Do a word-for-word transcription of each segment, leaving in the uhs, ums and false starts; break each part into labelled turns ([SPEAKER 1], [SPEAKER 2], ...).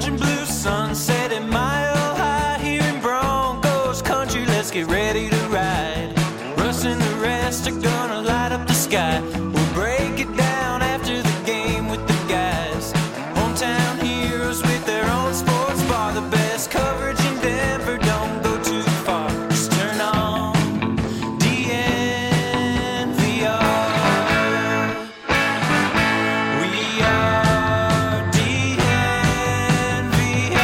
[SPEAKER 1] orange and blue sunset at Mile High here in Broncos country. Let's get ready to ride. Russ and the rest are gonna light up the sky. We'll break it down after the game with the guys. Hometown heroes with their own sports bar. The best coverage in Denver, don't go too far. Just turn on D N V R. We are D N V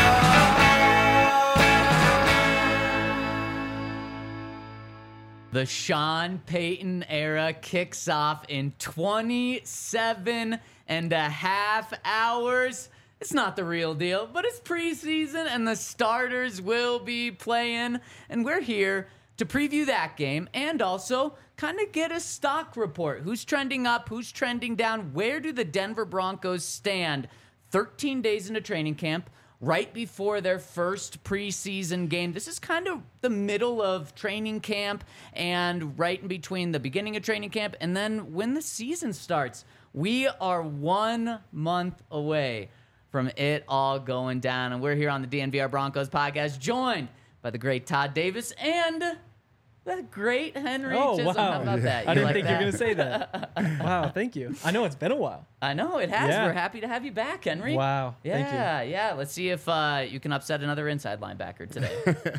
[SPEAKER 1] R.
[SPEAKER 2] The Sean Payton era kicks off in twenty-seven and a half hours. It's not the real deal, but it's preseason and the starters will be playing. And we're here to preview that game and also kind of get a stock report. Who's trending up? Who's trending down? Where do the Denver Broncos stand thirteen days into training camp, right before their first preseason game? This is kind of the middle of training camp and right in between the beginning of training camp and then when the season starts. We are one month away from it all going down, and we're here on the D N V R Broncos podcast, joined by the great Todd Davis and the great Henry
[SPEAKER 3] Oh,
[SPEAKER 2] Chisholm.
[SPEAKER 3] wow.
[SPEAKER 2] How about that?
[SPEAKER 3] I
[SPEAKER 2] You
[SPEAKER 3] didn't
[SPEAKER 2] like
[SPEAKER 3] think you
[SPEAKER 2] that?
[SPEAKER 3] were going to say that. Wow, thank you. I know it's been a while.
[SPEAKER 2] I know, it has.
[SPEAKER 3] Yeah.
[SPEAKER 2] We're happy to have you back, Henry.
[SPEAKER 3] Wow,
[SPEAKER 2] Yeah,
[SPEAKER 3] thank you.
[SPEAKER 2] yeah. Let's see if uh, you can upset another inside linebacker today.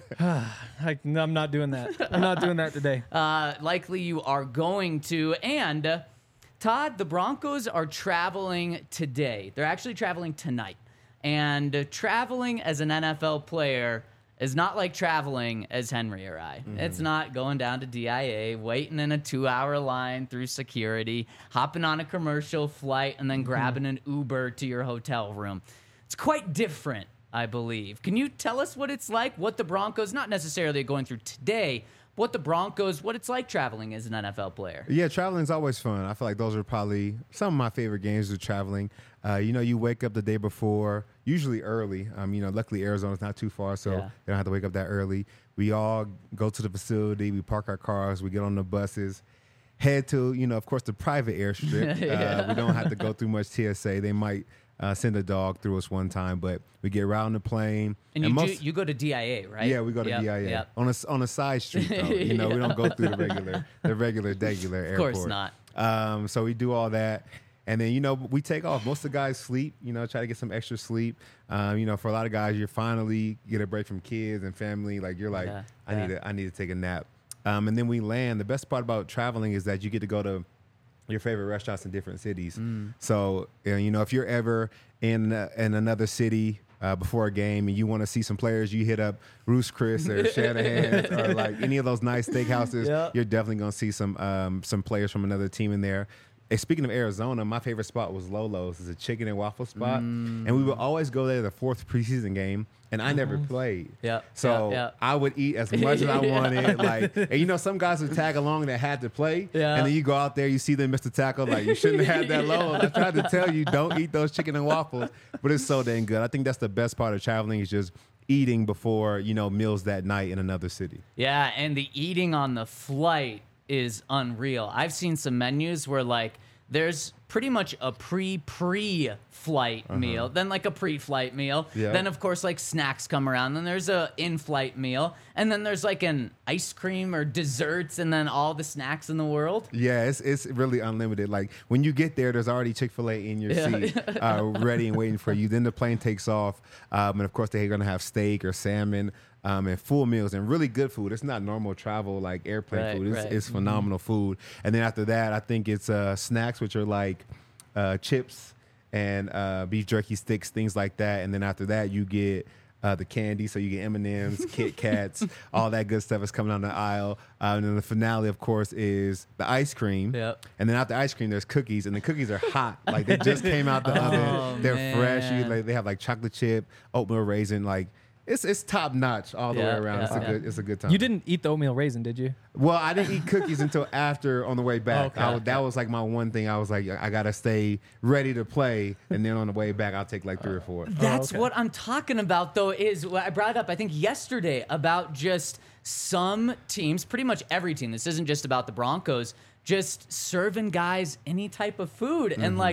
[SPEAKER 3] I, no, I'm not doing that. I'm not doing that today.
[SPEAKER 2] uh, likely you are going to. And, uh, Todd, the Broncos are traveling today. They're actually traveling tonight. And uh, traveling as an N F L player is not like traveling as Henry or I. Mm-hmm. It's not going down to D I A, waiting in a two-hour line through security, hopping on a commercial flight, and then grabbing an Uber to your hotel room. It's quite different, I believe. Can you tell us what it's like, what the Broncos, not necessarily going through today, what the Broncos, what it's like traveling as an N F L player?
[SPEAKER 4] Yeah, traveling is always fun. I feel like those are probably some of my favorite games of traveling. Uh, you know, you wake up the day before, usually early. Um, you know, luckily Arizona's not too far, so
[SPEAKER 2] Yeah.
[SPEAKER 4] you don't have to wake up that early. We all go to the facility, we park our cars, we get on the buses, head to, you know, of course, the private airstrip.
[SPEAKER 2] Yeah.
[SPEAKER 4] uh, we don't have to go through much T S A. They might uh, send a dog through us one time, but we get right on the plane.
[SPEAKER 2] And, you
[SPEAKER 4] most,
[SPEAKER 2] do, you go to D I A, right?
[SPEAKER 4] Yeah, we go to
[SPEAKER 2] Yep,
[SPEAKER 4] D I A
[SPEAKER 2] yep.
[SPEAKER 4] on a on a side street though. You know, we don't go through the regular the regular regular
[SPEAKER 2] Of
[SPEAKER 4] airport.
[SPEAKER 2] course not.
[SPEAKER 4] Um, so we do all that, and then you know we take off. Most of the guys sleep. You know, try to get some extra sleep. Um, you know, for a lot of guys, you finally get a break from kids and family. Like you're like,
[SPEAKER 2] Yeah,
[SPEAKER 4] I
[SPEAKER 2] yeah.
[SPEAKER 4] need to I need to take a nap. Um, and then we land. The best part about traveling is that you get to go to your favorite restaurants in different cities.
[SPEAKER 2] Mm.
[SPEAKER 4] So uh, you know, if you're ever in uh, in another city uh, before a game and you want to see some players, you hit up Roost Chris or Shanahan's or like any of those nice steakhouses.
[SPEAKER 2] Yeah.
[SPEAKER 4] You're definitely gonna see some um, some players from another team in there. And speaking of Arizona, my favorite spot was Lolo's. It's a chicken and waffle spot,
[SPEAKER 2] Mm.
[SPEAKER 4] and we would always go there the fourth preseason game. And I never played.
[SPEAKER 2] Yeah,
[SPEAKER 4] So
[SPEAKER 2] yeah, yeah.
[SPEAKER 4] I would eat as much as I wanted. Like, and you know, some guys would tag along that had to play.
[SPEAKER 2] Yeah.
[SPEAKER 4] And then you go out there, you see them miss the tackle. Like, you shouldn't have had that low. I tried to tell you, don't eat those chicken and waffles. But it's so dang good. I think that's the best part of traveling is just eating before, you know, meals that night in another city.
[SPEAKER 2] Yeah, and the eating on the flight is unreal. I've seen some menus where, like, there's pretty much a pre-pre-flight
[SPEAKER 4] Uh-huh.
[SPEAKER 2] meal, then like a pre-flight meal,
[SPEAKER 4] Yeah.
[SPEAKER 2] then of course like snacks come around, then there's a in-flight meal, and then there's like an ice cream or desserts, and then all the snacks in the world.
[SPEAKER 4] Yeah, it's it's really unlimited. Like when you get there, there's already Chick-fil-A in your
[SPEAKER 2] Yeah.
[SPEAKER 4] seat, uh, ready and waiting for you. Then the plane takes off, um, and of course they're gonna have steak or salmon um, and full meals and really good food. It's not normal travel like airplane
[SPEAKER 2] Right,
[SPEAKER 4] food. It's,
[SPEAKER 2] right.
[SPEAKER 4] it's phenomenal food. And then after that, I think it's uh, snacks, which are like uh, chips and uh, beef jerky sticks, things like that. And then after that, you get uh, the candy. So you get M and M's, Kit Kats, all that good stuff is coming down the aisle. Uh, and then the finale, of course, is the ice cream.
[SPEAKER 2] Yep.
[SPEAKER 4] And then after ice cream, there's cookies, and the cookies are hot. Like they just came out the
[SPEAKER 2] Oh,
[SPEAKER 4] oven. They're fresh. You,
[SPEAKER 2] man.
[SPEAKER 4] like, they have like chocolate chip, oatmeal raisin. Like it's it's top notch all the
[SPEAKER 2] Yeah,
[SPEAKER 4] way around.
[SPEAKER 2] yeah,
[SPEAKER 4] it's a
[SPEAKER 2] yeah.
[SPEAKER 4] good it's a good time.
[SPEAKER 3] You didn't eat the oatmeal raisin, did you?
[SPEAKER 4] Well, I didn't eat cookies until after on the way back.
[SPEAKER 3] Okay.
[SPEAKER 4] I, that was like my one thing. I was like, I gotta stay ready to play, and then on the way back, I'll take like three or four.
[SPEAKER 2] That's
[SPEAKER 3] okay.
[SPEAKER 2] what I'm talking about, though, is what I brought it up, I think, yesterday about just some teams, pretty much every team, this isn't just about the Broncos, just serving guys any type of food. And, like,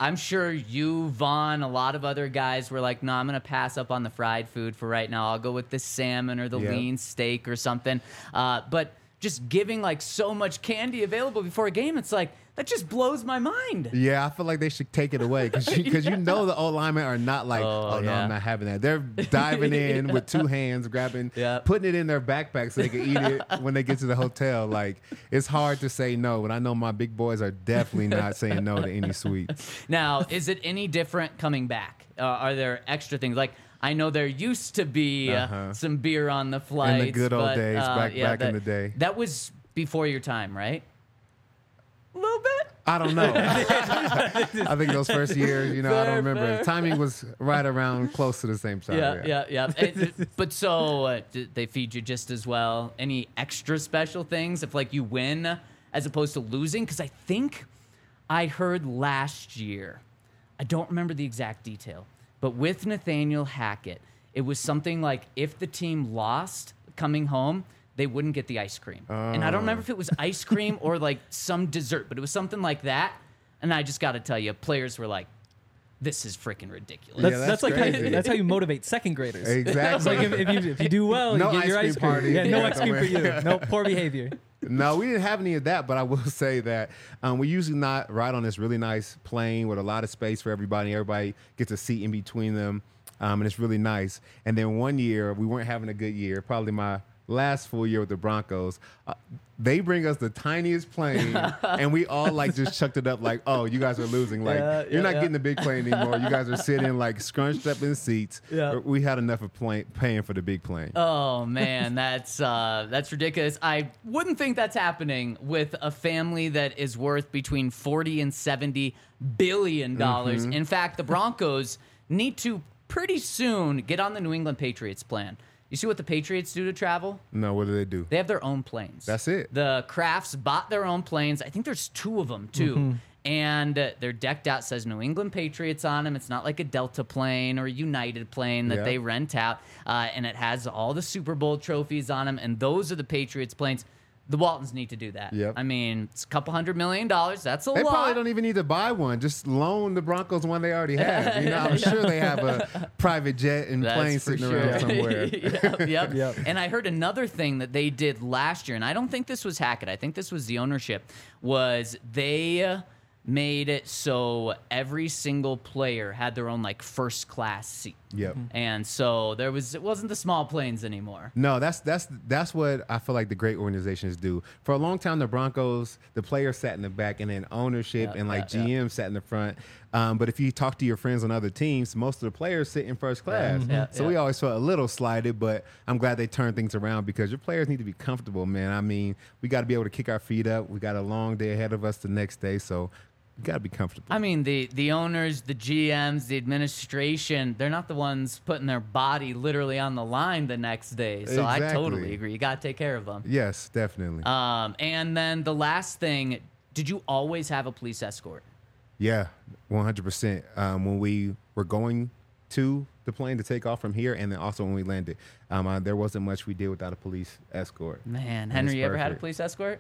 [SPEAKER 2] I'm sure you, Vaughn, a lot of other guys were like, no, I'm going to pass up on the fried food for right now. I'll go with the salmon or the
[SPEAKER 4] Yep.
[SPEAKER 2] lean steak or something. Uh, but just giving like so much candy available before a game, it's like, that just blows my mind.
[SPEAKER 4] Yeah, I feel like they should take it away because you, 'cause you know the old linemen are not like,
[SPEAKER 2] Oh,
[SPEAKER 4] oh, no,
[SPEAKER 2] yeah.
[SPEAKER 4] I'm not having that. They're diving in with two hands, grabbing,
[SPEAKER 2] Yeah.
[SPEAKER 4] putting it in their backpack so they can eat it when they get to the hotel. Like, it's hard to say no, but I know my big boys are definitely not saying no to any sweets.
[SPEAKER 2] Now, is it any different coming back? Uh, are there extra things? Like, I know there used to be uh,
[SPEAKER 4] Uh-huh.
[SPEAKER 2] some beer on the flights.
[SPEAKER 4] good old
[SPEAKER 2] but,
[SPEAKER 4] days,
[SPEAKER 2] uh,
[SPEAKER 4] back-
[SPEAKER 2] yeah,
[SPEAKER 4] back in
[SPEAKER 2] that-
[SPEAKER 4] the day.
[SPEAKER 2] That was before your time, right? A little bit.
[SPEAKER 4] I don't know. I think those first years, you know, I
[SPEAKER 2] Fair,
[SPEAKER 4] don't remember.
[SPEAKER 2] fair.
[SPEAKER 4] The timing was right around close to the same time.
[SPEAKER 2] Yeah, yeah, yeah. And- but so uh, d- they feed you just as well. Any extra special things if like you win as opposed to losing? Because I think I heard last year, I don't remember the exact detail, but with Nathaniel Hackett, it was something like if the team lost coming home, they wouldn't get the ice cream. And I don't remember if it was ice cream or like some dessert, but it was something like that. And I just got to tell you, players were like, this is freaking ridiculous.
[SPEAKER 3] That's,
[SPEAKER 4] Yeah,
[SPEAKER 3] that's,
[SPEAKER 4] that's
[SPEAKER 3] like how you,
[SPEAKER 4] crazy.
[SPEAKER 3] that's how you motivate second graders. It's
[SPEAKER 4] Exactly.
[SPEAKER 3] like if, if you if you do well,
[SPEAKER 4] No
[SPEAKER 3] you get your
[SPEAKER 4] ice
[SPEAKER 3] ice
[SPEAKER 4] cream
[SPEAKER 3] cream.
[SPEAKER 4] party.
[SPEAKER 3] Yeah, no
[SPEAKER 4] Yeah,
[SPEAKER 3] ice cream for you. No poor behavior.
[SPEAKER 4] No, we didn't have any of that, but I will say that um, we usually not ride on this really nice plane with a lot of space for everybody. Everybody gets a seat in between them, um, and it's really nice. And then one year, we weren't having a good year, probably my last full year with the Broncos. Uh, they bring us the tiniest plane, and we all like just chucked it up like, oh, you guys are losing. Like,
[SPEAKER 2] Yeah,
[SPEAKER 4] you're
[SPEAKER 2] yeah,
[SPEAKER 4] not
[SPEAKER 2] yeah.
[SPEAKER 4] getting the big plane anymore. You guys are sitting like scrunched up in seats.
[SPEAKER 2] Yeah.
[SPEAKER 4] We had enough of plane, paying for the big plane.
[SPEAKER 2] Oh man, that's uh, that's ridiculous. I wouldn't think that's happening with a family that is worth between forty and seventy billion dollars.
[SPEAKER 4] Mm-hmm.
[SPEAKER 2] In fact, the Broncos need to pretty soon get on the New England Patriots plan. You see what the Patriots do to travel?
[SPEAKER 4] No, what do they do?
[SPEAKER 2] They have their own planes.
[SPEAKER 4] That's it.
[SPEAKER 2] The Crafts bought their own planes. I think there's two of them too.
[SPEAKER 3] Mm-hmm.
[SPEAKER 2] And uh, they're decked out, says New England Patriots on them. It's not like a Delta plane or a United plane that
[SPEAKER 4] Yeah.
[SPEAKER 2] they rent out. Uh, and it has all the Super Bowl trophies on them. And those are the Patriots planes. The Waltons need to do that.
[SPEAKER 4] Yep.
[SPEAKER 2] I mean, it's a couple hundred million dollars. That's a
[SPEAKER 4] They
[SPEAKER 2] lot.
[SPEAKER 4] probably don't even need to buy one. Just loan the Broncos one they already have. You know, I'm sure they have a private jet and
[SPEAKER 2] That's
[SPEAKER 4] plane
[SPEAKER 2] for
[SPEAKER 4] sitting
[SPEAKER 2] sure.
[SPEAKER 4] around somewhere.
[SPEAKER 2] yep, yep.
[SPEAKER 3] Yep.
[SPEAKER 2] And I heard another thing that they did last year, and I don't think this was Hackett. I think this was the ownership. Was they uh, made it so every single player had their own like first class seat.
[SPEAKER 4] Yep.
[SPEAKER 2] And so there was it wasn't the small planes anymore.
[SPEAKER 4] No, that's that's that's what I feel like the great organizations do. For a long time, the Broncos, the players sat in the back, and then ownership
[SPEAKER 2] Yeah,
[SPEAKER 4] and like
[SPEAKER 2] yeah,
[SPEAKER 4] G M sat in the front. Um, but if you talk to your friends on other teams, most of the players sit in first class.
[SPEAKER 2] yeah,
[SPEAKER 4] so
[SPEAKER 2] yeah.
[SPEAKER 4] we always felt a little slighted, but I'm glad they turned things around because your players need to be comfortable, man. I mean, we got to be able to kick our feet up. We got a long day ahead of us the next day, so you got to be comfortable.
[SPEAKER 2] I mean, the the owners, the G Ms, the administration, they're not the ones putting their body literally on the line the next day. So I
[SPEAKER 4] Exactly.
[SPEAKER 2] totally agree. You got to take care of them.
[SPEAKER 4] Yes, definitely.
[SPEAKER 2] Um, and then the last thing, did you always have a police escort?
[SPEAKER 4] Yeah, one hundred percent. Um, when we were going to the plane to take off from here, and then also when we landed, um, uh, there wasn't much we did without a police escort.
[SPEAKER 2] Man,
[SPEAKER 4] And
[SPEAKER 2] Henry,
[SPEAKER 4] it's
[SPEAKER 2] you ever had a
[SPEAKER 4] perfect.
[SPEAKER 2] police escort?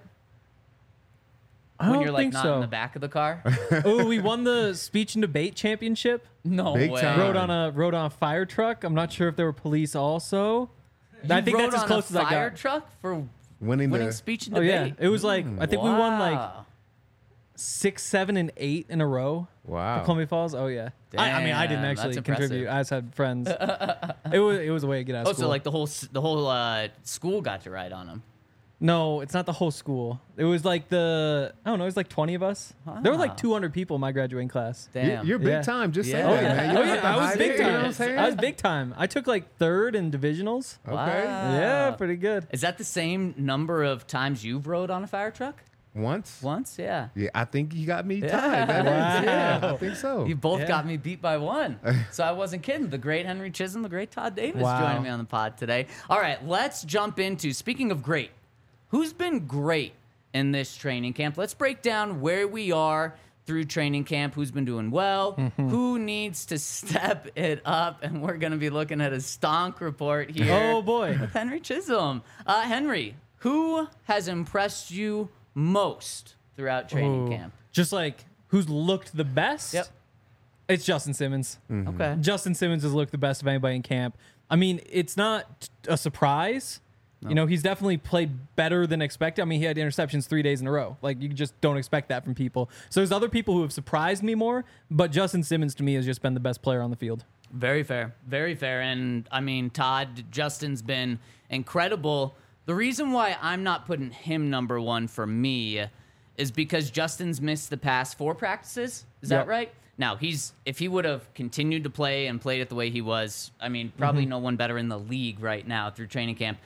[SPEAKER 3] I
[SPEAKER 2] When
[SPEAKER 3] don't
[SPEAKER 2] you're like
[SPEAKER 3] think
[SPEAKER 2] not
[SPEAKER 3] so.
[SPEAKER 2] in the back of the car?
[SPEAKER 3] Oh, we won the speech and debate championship.
[SPEAKER 2] No
[SPEAKER 4] Big
[SPEAKER 2] way.
[SPEAKER 4] time.
[SPEAKER 3] Rode on a rode on a fire truck. I'm not sure if there were police also. I
[SPEAKER 2] You
[SPEAKER 3] think
[SPEAKER 2] rode
[SPEAKER 3] that's as
[SPEAKER 2] on
[SPEAKER 3] close
[SPEAKER 2] a
[SPEAKER 3] as I
[SPEAKER 2] fire
[SPEAKER 3] got.
[SPEAKER 2] truck for
[SPEAKER 4] Winning,
[SPEAKER 2] winning
[SPEAKER 4] the
[SPEAKER 2] speech and
[SPEAKER 3] Oh yeah,
[SPEAKER 2] debate.
[SPEAKER 3] it was like I think we won like
[SPEAKER 2] Wow.
[SPEAKER 3] six, seven, and eight in a row.
[SPEAKER 4] wow.
[SPEAKER 3] For Columbia Falls. Oh yeah. I, I mean, I didn't
[SPEAKER 2] Damn,
[SPEAKER 3] actually
[SPEAKER 2] that's
[SPEAKER 3] contribute.
[SPEAKER 2] impressive.
[SPEAKER 3] I just had friends. it was it was a way to get out
[SPEAKER 2] Oh,
[SPEAKER 3] of school.
[SPEAKER 2] so like the whole s- the whole uh, school got to ride on them.
[SPEAKER 3] no, it's not the whole school. It was like the I don't know. It was like twenty of us. There were
[SPEAKER 2] Wow.
[SPEAKER 3] like two hundred people in my graduating class.
[SPEAKER 4] You-
[SPEAKER 2] Damn.
[SPEAKER 4] You're big
[SPEAKER 3] Yeah.
[SPEAKER 4] time. Just
[SPEAKER 2] Yeah.
[SPEAKER 4] say
[SPEAKER 2] Oh,
[SPEAKER 4] that,
[SPEAKER 2] yeah.
[SPEAKER 4] man. You
[SPEAKER 3] Oh
[SPEAKER 4] don't have
[SPEAKER 3] yeah,
[SPEAKER 4] to
[SPEAKER 3] I was
[SPEAKER 4] hide
[SPEAKER 3] big
[SPEAKER 4] it, you know what I'm
[SPEAKER 3] time.
[SPEAKER 4] saying?
[SPEAKER 3] I was big time. I took like third in divisionals.
[SPEAKER 4] Okay.
[SPEAKER 2] Wow.
[SPEAKER 3] Yeah, pretty good.
[SPEAKER 2] Is that the same number of times you've rode on a fire truck?
[SPEAKER 4] Once?
[SPEAKER 2] Once, yeah.
[SPEAKER 4] Yeah, I think you got me
[SPEAKER 2] Yeah.
[SPEAKER 4] tied. That is,
[SPEAKER 3] Wow.
[SPEAKER 4] yeah, I think so.
[SPEAKER 2] You both
[SPEAKER 3] Yeah.
[SPEAKER 2] got me beat by one. So I wasn't kidding. The great Henry Chisholm, the great Todd Davis
[SPEAKER 3] Wow.
[SPEAKER 2] joining me on the pod today. All right, let's jump into, speaking of great, who's been great in this training camp? Let's break down where we are through training camp, who's been doing well, who needs to step it up, and we're going to be looking at a stonk report here.
[SPEAKER 3] Oh boy.
[SPEAKER 2] With Henry Chisholm. Uh, Henry, who has impressed you most throughout training
[SPEAKER 3] Ooh.
[SPEAKER 2] camp?
[SPEAKER 3] Just like who's looked the best?
[SPEAKER 2] Yep.
[SPEAKER 3] It's Justin Simmons.
[SPEAKER 2] Okay.
[SPEAKER 3] Justin Simmons has looked the best of anybody in camp. I mean, it's not a surprise. You know, he's definitely played better than expected. I mean, he had interceptions three days in a row. Like, you just don't expect that from people. So there's other people who have surprised me more, but Justin Simmons to me has just been the best player on the field.
[SPEAKER 2] Very fair. Very fair. And I mean, Todd, Justin's been incredible. The reason why I'm not putting him number one for me is because Justin's missed the past four practices. Is
[SPEAKER 3] Yep.
[SPEAKER 2] that right? Now, he's if he would have continued to play and played it the way he was, I mean, probably
[SPEAKER 3] Mm-hmm.
[SPEAKER 2] no one better in the league right now through training camp.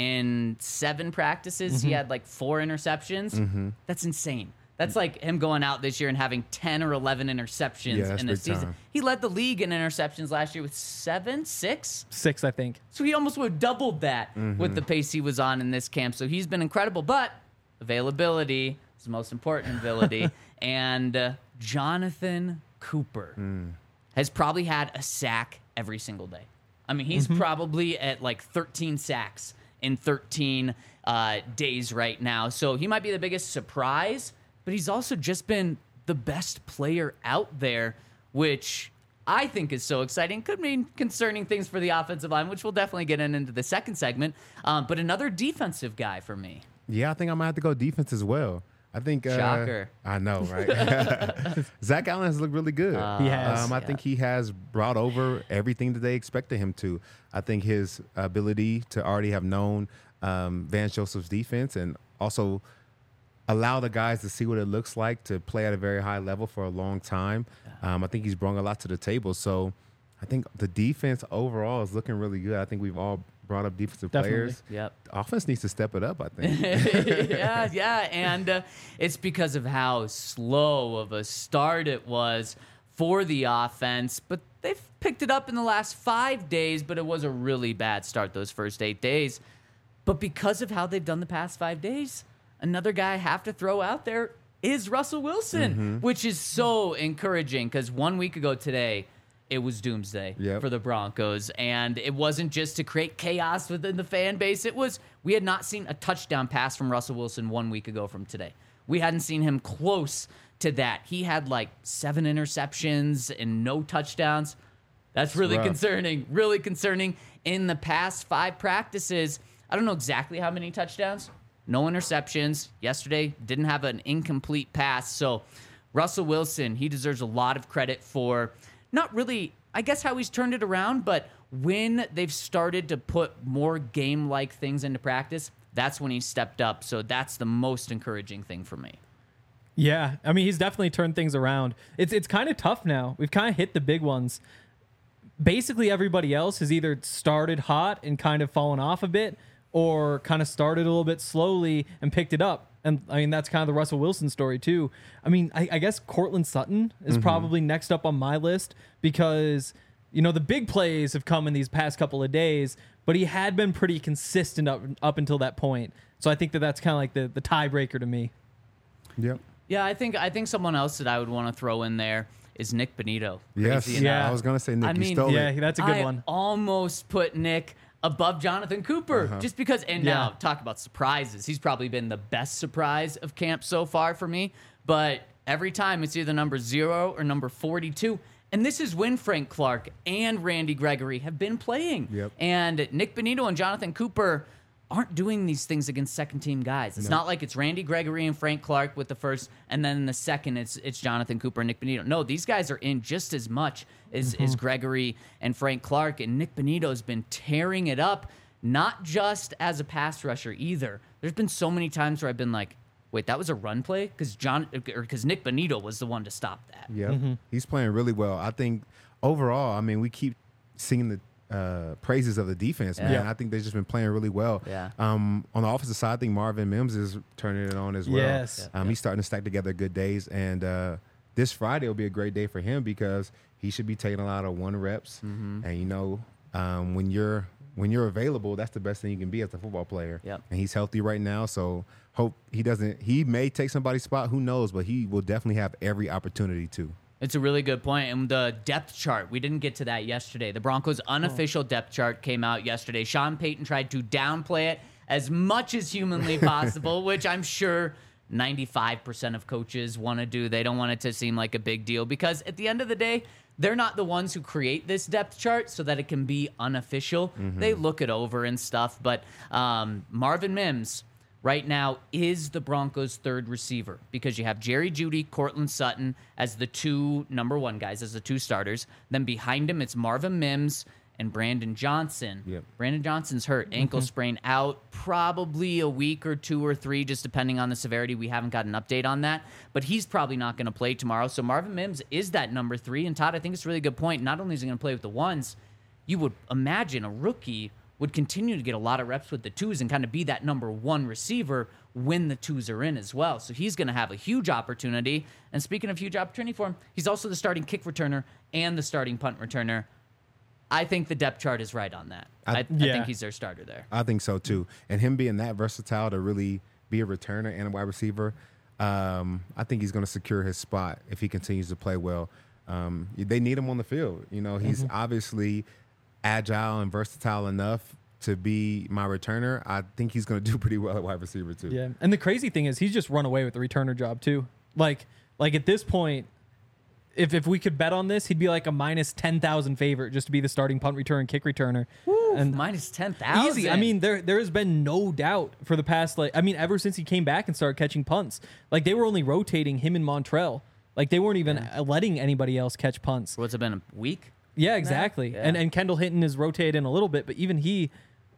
[SPEAKER 2] In seven practices,
[SPEAKER 3] Mm-hmm.
[SPEAKER 2] he had like four interceptions. That's insane. That's like him going out this year and having ten or eleven interceptions
[SPEAKER 4] Yeah, that's
[SPEAKER 2] in a
[SPEAKER 4] big
[SPEAKER 2] season.
[SPEAKER 4] time.
[SPEAKER 2] He led the league in interceptions last year with seven, six.
[SPEAKER 3] Six, I think.
[SPEAKER 2] So he almost would have doubled that with the pace he was on in this camp. So he's been incredible. But availability is the most important ability. and uh, Jonathan Cooper has probably had a sack every single day. I mean, he's probably at like thirteen sacks in thirteen uh, days right now. So he might be the biggest surprise, but he's also just been the best player out there, which I think is so exciting. Could mean concerning things for the offensive line, which we'll definitely get in into the second segment. Um, but another defensive guy for me.
[SPEAKER 4] Yeah, I think I might have to go defense as well. I think. Uh,
[SPEAKER 2] Shocker.
[SPEAKER 4] I know, right? Zach Allen has looked really good.
[SPEAKER 3] He has.
[SPEAKER 4] Um, I think he has brought over everything that they expected him to. I think his ability to already have known um, Vance Joseph's defense and also allow the guys to see what it looks like to play at a very high level for a long time. Um, I think he's brought a lot to the table. So I think the defense overall is looking really good. I think we've all brought up defensive
[SPEAKER 3] Definitely.
[SPEAKER 4] players.
[SPEAKER 2] Yep.
[SPEAKER 4] The offense needs to step it up, I think.
[SPEAKER 2] yeah, yeah, and uh, it's because of how slow of a start it was for the offense. But they've picked it up in the last five days, but it was a really bad start those first eight days. But because of how they've done the past five days, another guy I have to throw out there is Russell Wilson, which is so encouraging because one week ago today, it was doomsday
[SPEAKER 4] Yep.
[SPEAKER 2] for the Broncos. And it wasn't just to create chaos within the fan base. It was, we had not seen a touchdown pass from Russell Wilson one week ago from today. We hadn't seen him close to that. He had like seven interceptions and no touchdowns. That's really
[SPEAKER 4] rough.
[SPEAKER 2] concerning, really concerning. In the past five practices, I don't know exactly how many touchdowns, no interceptions. Yesterday, didn't have an incomplete pass. So Russell Wilson, he deserves a lot of credit for not really, I guess, how he's turned it around, but when they've started to put more game-like things into practice, that's when he stepped up. So that's the most encouraging thing for me.
[SPEAKER 3] Yeah, I mean, he's definitely turned things around. It's it's kind of tough now. We've kind of hit the big ones. Basically, everybody else has either started hot and kind of fallen off a bit, or kind of started a little bit slowly and picked it up. And I mean, that's kind of the Russell Wilson story too. I mean, I, I guess Cortland Sutton is
[SPEAKER 4] Mm-hmm.
[SPEAKER 3] probably next up on my list because, you know, the big plays have come in these past couple of days, but he had been pretty consistent up, up until that point. So I think that that's kind of like the, the tiebreaker to me.
[SPEAKER 4] Yep.
[SPEAKER 2] Yeah, I think I think someone else that I would want to throw in there is Nick Benito.
[SPEAKER 4] Yes.
[SPEAKER 2] Crazy
[SPEAKER 3] Yeah.
[SPEAKER 2] enough.
[SPEAKER 4] I was going to say Nick.
[SPEAKER 2] I
[SPEAKER 4] you
[SPEAKER 2] mean,
[SPEAKER 4] stole
[SPEAKER 3] Yeah,
[SPEAKER 4] it.
[SPEAKER 3] that's a good
[SPEAKER 2] I
[SPEAKER 3] one.
[SPEAKER 2] almost put Nick above Jonathan Cooper just because, and now
[SPEAKER 3] Yeah.
[SPEAKER 2] talk about surprises. He's probably been the best surprise of camp so far for me, but every time it's either number zero or number forty-two. And this is when Frank Clark and Randy Gregory have been playing.
[SPEAKER 4] Yep.
[SPEAKER 2] And Nick Benito and Jonathan Cooper aren't doing these things against second team guys. It's not like it's Randy Gregory and Frank Clark with the first, and then in the second it's it's Jonathan Cooper and Nick Benito. No, these guys are in just as much as, as Gregory and Frank Clark, and Nick Benito's been tearing it up, not just as a pass rusher either. There's been so many times where I've been like, wait, that was a run play? Because John or because Nick Benito was the one to stop that.
[SPEAKER 4] Yeah, he's playing really well. I think overall, I mean, we keep seeing the uh, praises of the defense, man.
[SPEAKER 3] Yeah.
[SPEAKER 4] I think they've just been playing really well.
[SPEAKER 2] Yeah.
[SPEAKER 4] Um, on the offensive side, I think Marvin Mims is turning it on as well.
[SPEAKER 3] Yes.
[SPEAKER 4] Um, He's starting to stack together good days, and uh, this Friday will be a great day for him because he should be taking a lot of one reps. And you know, um, when you're when you're available, that's the best thing you can be as a football player.
[SPEAKER 2] Yep.
[SPEAKER 4] And he's healthy right now, so hope he doesn't. He may take somebody's spot. Who knows? But he will definitely have every opportunity to.
[SPEAKER 2] It's a really good point. And the depth chart, we didn't get to that yesterday. The Broncos' unofficial depth chart came out yesterday. Sean Payton tried to downplay it as much as humanly possible, which I'm sure ninety-five percent of coaches want to do. They don't want it to seem like a big deal because at the end of the day, they're not the ones who create this depth chart so that it can be unofficial.
[SPEAKER 4] Mm-hmm.
[SPEAKER 2] They look it over and stuff. But um, Marvin Mims right now is the Broncos' third receiver because you have Jerry Jeudy, Cortland Sutton as the two number one guys, as the two starters. Then behind him, it's Marvin Mims and Brandon Johnson.
[SPEAKER 4] Yep.
[SPEAKER 2] Brandon Johnson's hurt, ankle sprain, out probably a week or two or three, just depending on the severity. We haven't got an update on that, but he's probably not going to play tomorrow. So Marvin Mims is that number three. And Todd, I think it's a really good point. Not only is he going to play with the ones, you would imagine a rookie would continue to get a lot of reps with the twos and kind of be that number one receiver when the twos are in as well. So he's going to have a huge opportunity. And speaking of huge opportunity for him, he's also the starting kick returner and the starting punt returner. I think the depth chart is right on that. I,
[SPEAKER 4] I-
[SPEAKER 2] I,
[SPEAKER 3] Yeah.
[SPEAKER 2] think he's their starter there.
[SPEAKER 4] I think so too. And him being that versatile to really be a returner and a wide receiver, um, I think he's going to secure his spot if he continues to play well. Um, they need him on the field. You know, he's obviously agile and versatile enough to be my returner. I think he's going to do pretty well at wide receiver too.
[SPEAKER 3] Yeah, and the crazy thing is he's just run away with the returner job too. Like, like at this point, if if we could bet on this, he'd be like a minus ten thousand favorite just to be the starting punt returner and kick returner. And
[SPEAKER 2] Minus ten thousand.
[SPEAKER 3] easy. I mean, there there has been no doubt for the past like I mean, ever since he came back and started catching punts, like they were only rotating him and Montrell. Like they weren't even uh letting anybody else catch punts.
[SPEAKER 2] what's it been, a week?
[SPEAKER 3] Yeah, exactly.
[SPEAKER 2] Yeah.
[SPEAKER 3] And and Kendall Hinton is rotated in a little bit, but even he,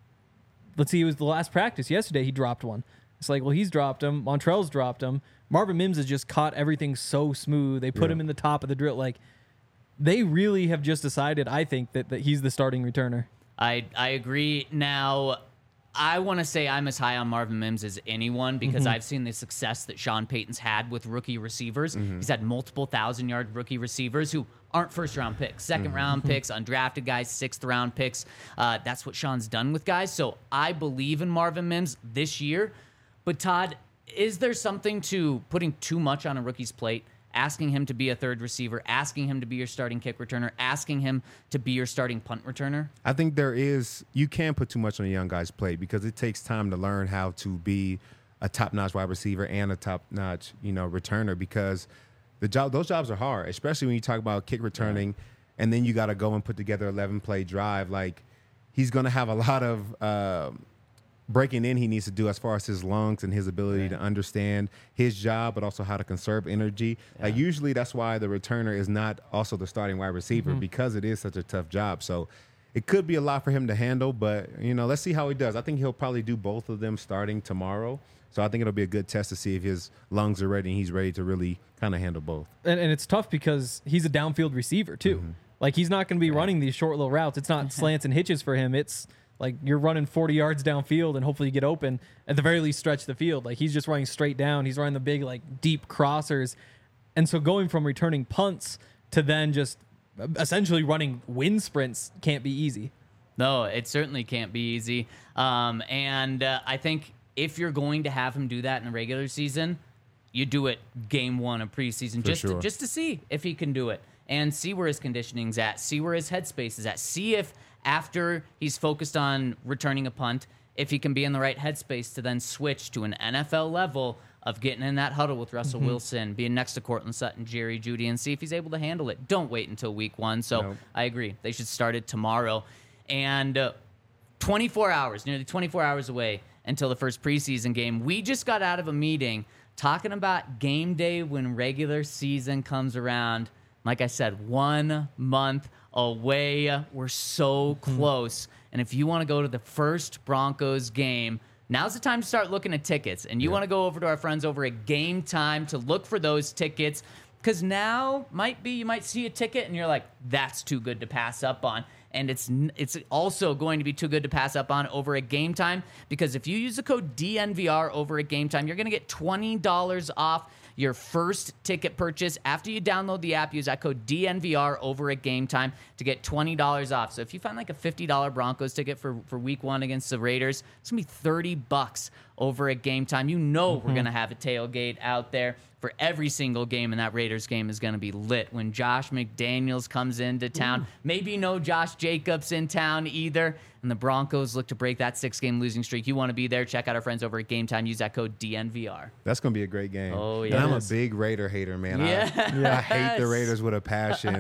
[SPEAKER 3] let's see, it was the last practice yesterday. He dropped one. It's like, well, he's dropped him. Montrell's dropped him. Marvin Mims has just caught everything so smooth. They put
[SPEAKER 4] Yeah.
[SPEAKER 3] him in the top of the drill. Like they really have just decided, I think, that, that he's the starting returner.
[SPEAKER 2] I I agree. Now, I want to say I'm as high on Marvin Mims as anyone because I've seen the success that Sean Payton's had with rookie receivers. He's had multiple thousand-yard rookie receivers who aren't first-round picks, second-round picks, undrafted guys, sixth-round picks. Uh, that's what Sean's done with guys. So I believe in Marvin Mims this year. But Todd, is there something to putting too much on a rookie's plate? Asking him to be a third receiver, asking him to be your starting kick returner, asking him to be your starting punt returner?
[SPEAKER 4] I think there is, you can put too much on a young guy's plate because it takes time to learn how to be a top-notch wide receiver and a top-notch, you know, returner because the job, those jobs are hard, especially when you talk about kick returning and then you got to go and put together eleven-play drive. Like, he's going to have a lot of uh, breaking in he needs to do as far as his lungs and his ability to understand his job, but also how to conserve energy. Like usually that's why the returner is not also the starting wide receiver because it is such a tough job. So it could be a lot for him to handle, but you know, let's see how he does. I think he'll probably do both of them starting tomorrow. So I think it'll be a good test to see if his lungs are ready and he's ready to really kind of handle both.
[SPEAKER 3] And, and it's tough because he's a downfield receiver too. Like he's not going to be running these short little routes. It's not slants and hitches for him. It's like you're running forty yards downfield and hopefully you get open. At the very least, stretch the field. Like he's just running straight down. He's running the big, like deep crossers. And so going from returning punts to then just essentially running wind sprints can't be easy.
[SPEAKER 2] No, it certainly can't be easy. Um, and uh, I think if you're going to have him do that in a regular season, you do it game one of preseason just
[SPEAKER 4] sure.
[SPEAKER 2] to, just to see if he can do it and see where his conditioning's at, see where his headspace is at, see if after he's focused on returning a punt, if he can be in the right headspace to then switch to an N F L level of getting in that huddle with Russell Wilson, being next to Cortland Sutton, Jerry Jeudy, and see if he's able to handle it. Don't wait until week one. So
[SPEAKER 4] Nope.
[SPEAKER 2] I agree. They should start it tomorrow. And uh, twenty-four hours, nearly twenty-four hours away until the first preseason game. We just got out of a meeting talking about game day when regular season comes around. Like I said, one month away. We're so close. And if you want to go to the first Broncos game, now's the time to start looking at tickets. And you want to go over to our friends over at Game Time to look for those tickets. Because now might be you might see a ticket and you're like, that's too good to pass up on. And it's it's also going to be too good to pass up on over at Game Time, because if you use the code D N V R over at Game Time, you're going to get twenty dollars off your first ticket purchase. After you download the app, use that code D N V R over at Game Time to get twenty dollars off. So if you find like a fifty dollars Broncos ticket for, for week one against the Raiders, it's going to be thirty bucks over at Game Time. You know we're going to have a tailgate out there for every single game, and that Raiders game is going to be lit when Josh McDaniels comes into town. Maybe no Josh Jacobs in town either, and the Broncos look to break that six-game losing streak. You want to be there, check out our friends over at Game Time. Use that code D N V R.
[SPEAKER 4] That's going to be a great game.
[SPEAKER 2] Oh,
[SPEAKER 4] And
[SPEAKER 2] yeah.
[SPEAKER 4] I'm a
[SPEAKER 2] Yes.
[SPEAKER 4] big Raider hater, man.
[SPEAKER 2] Yeah.
[SPEAKER 4] I, I hate the Raiders with a passion.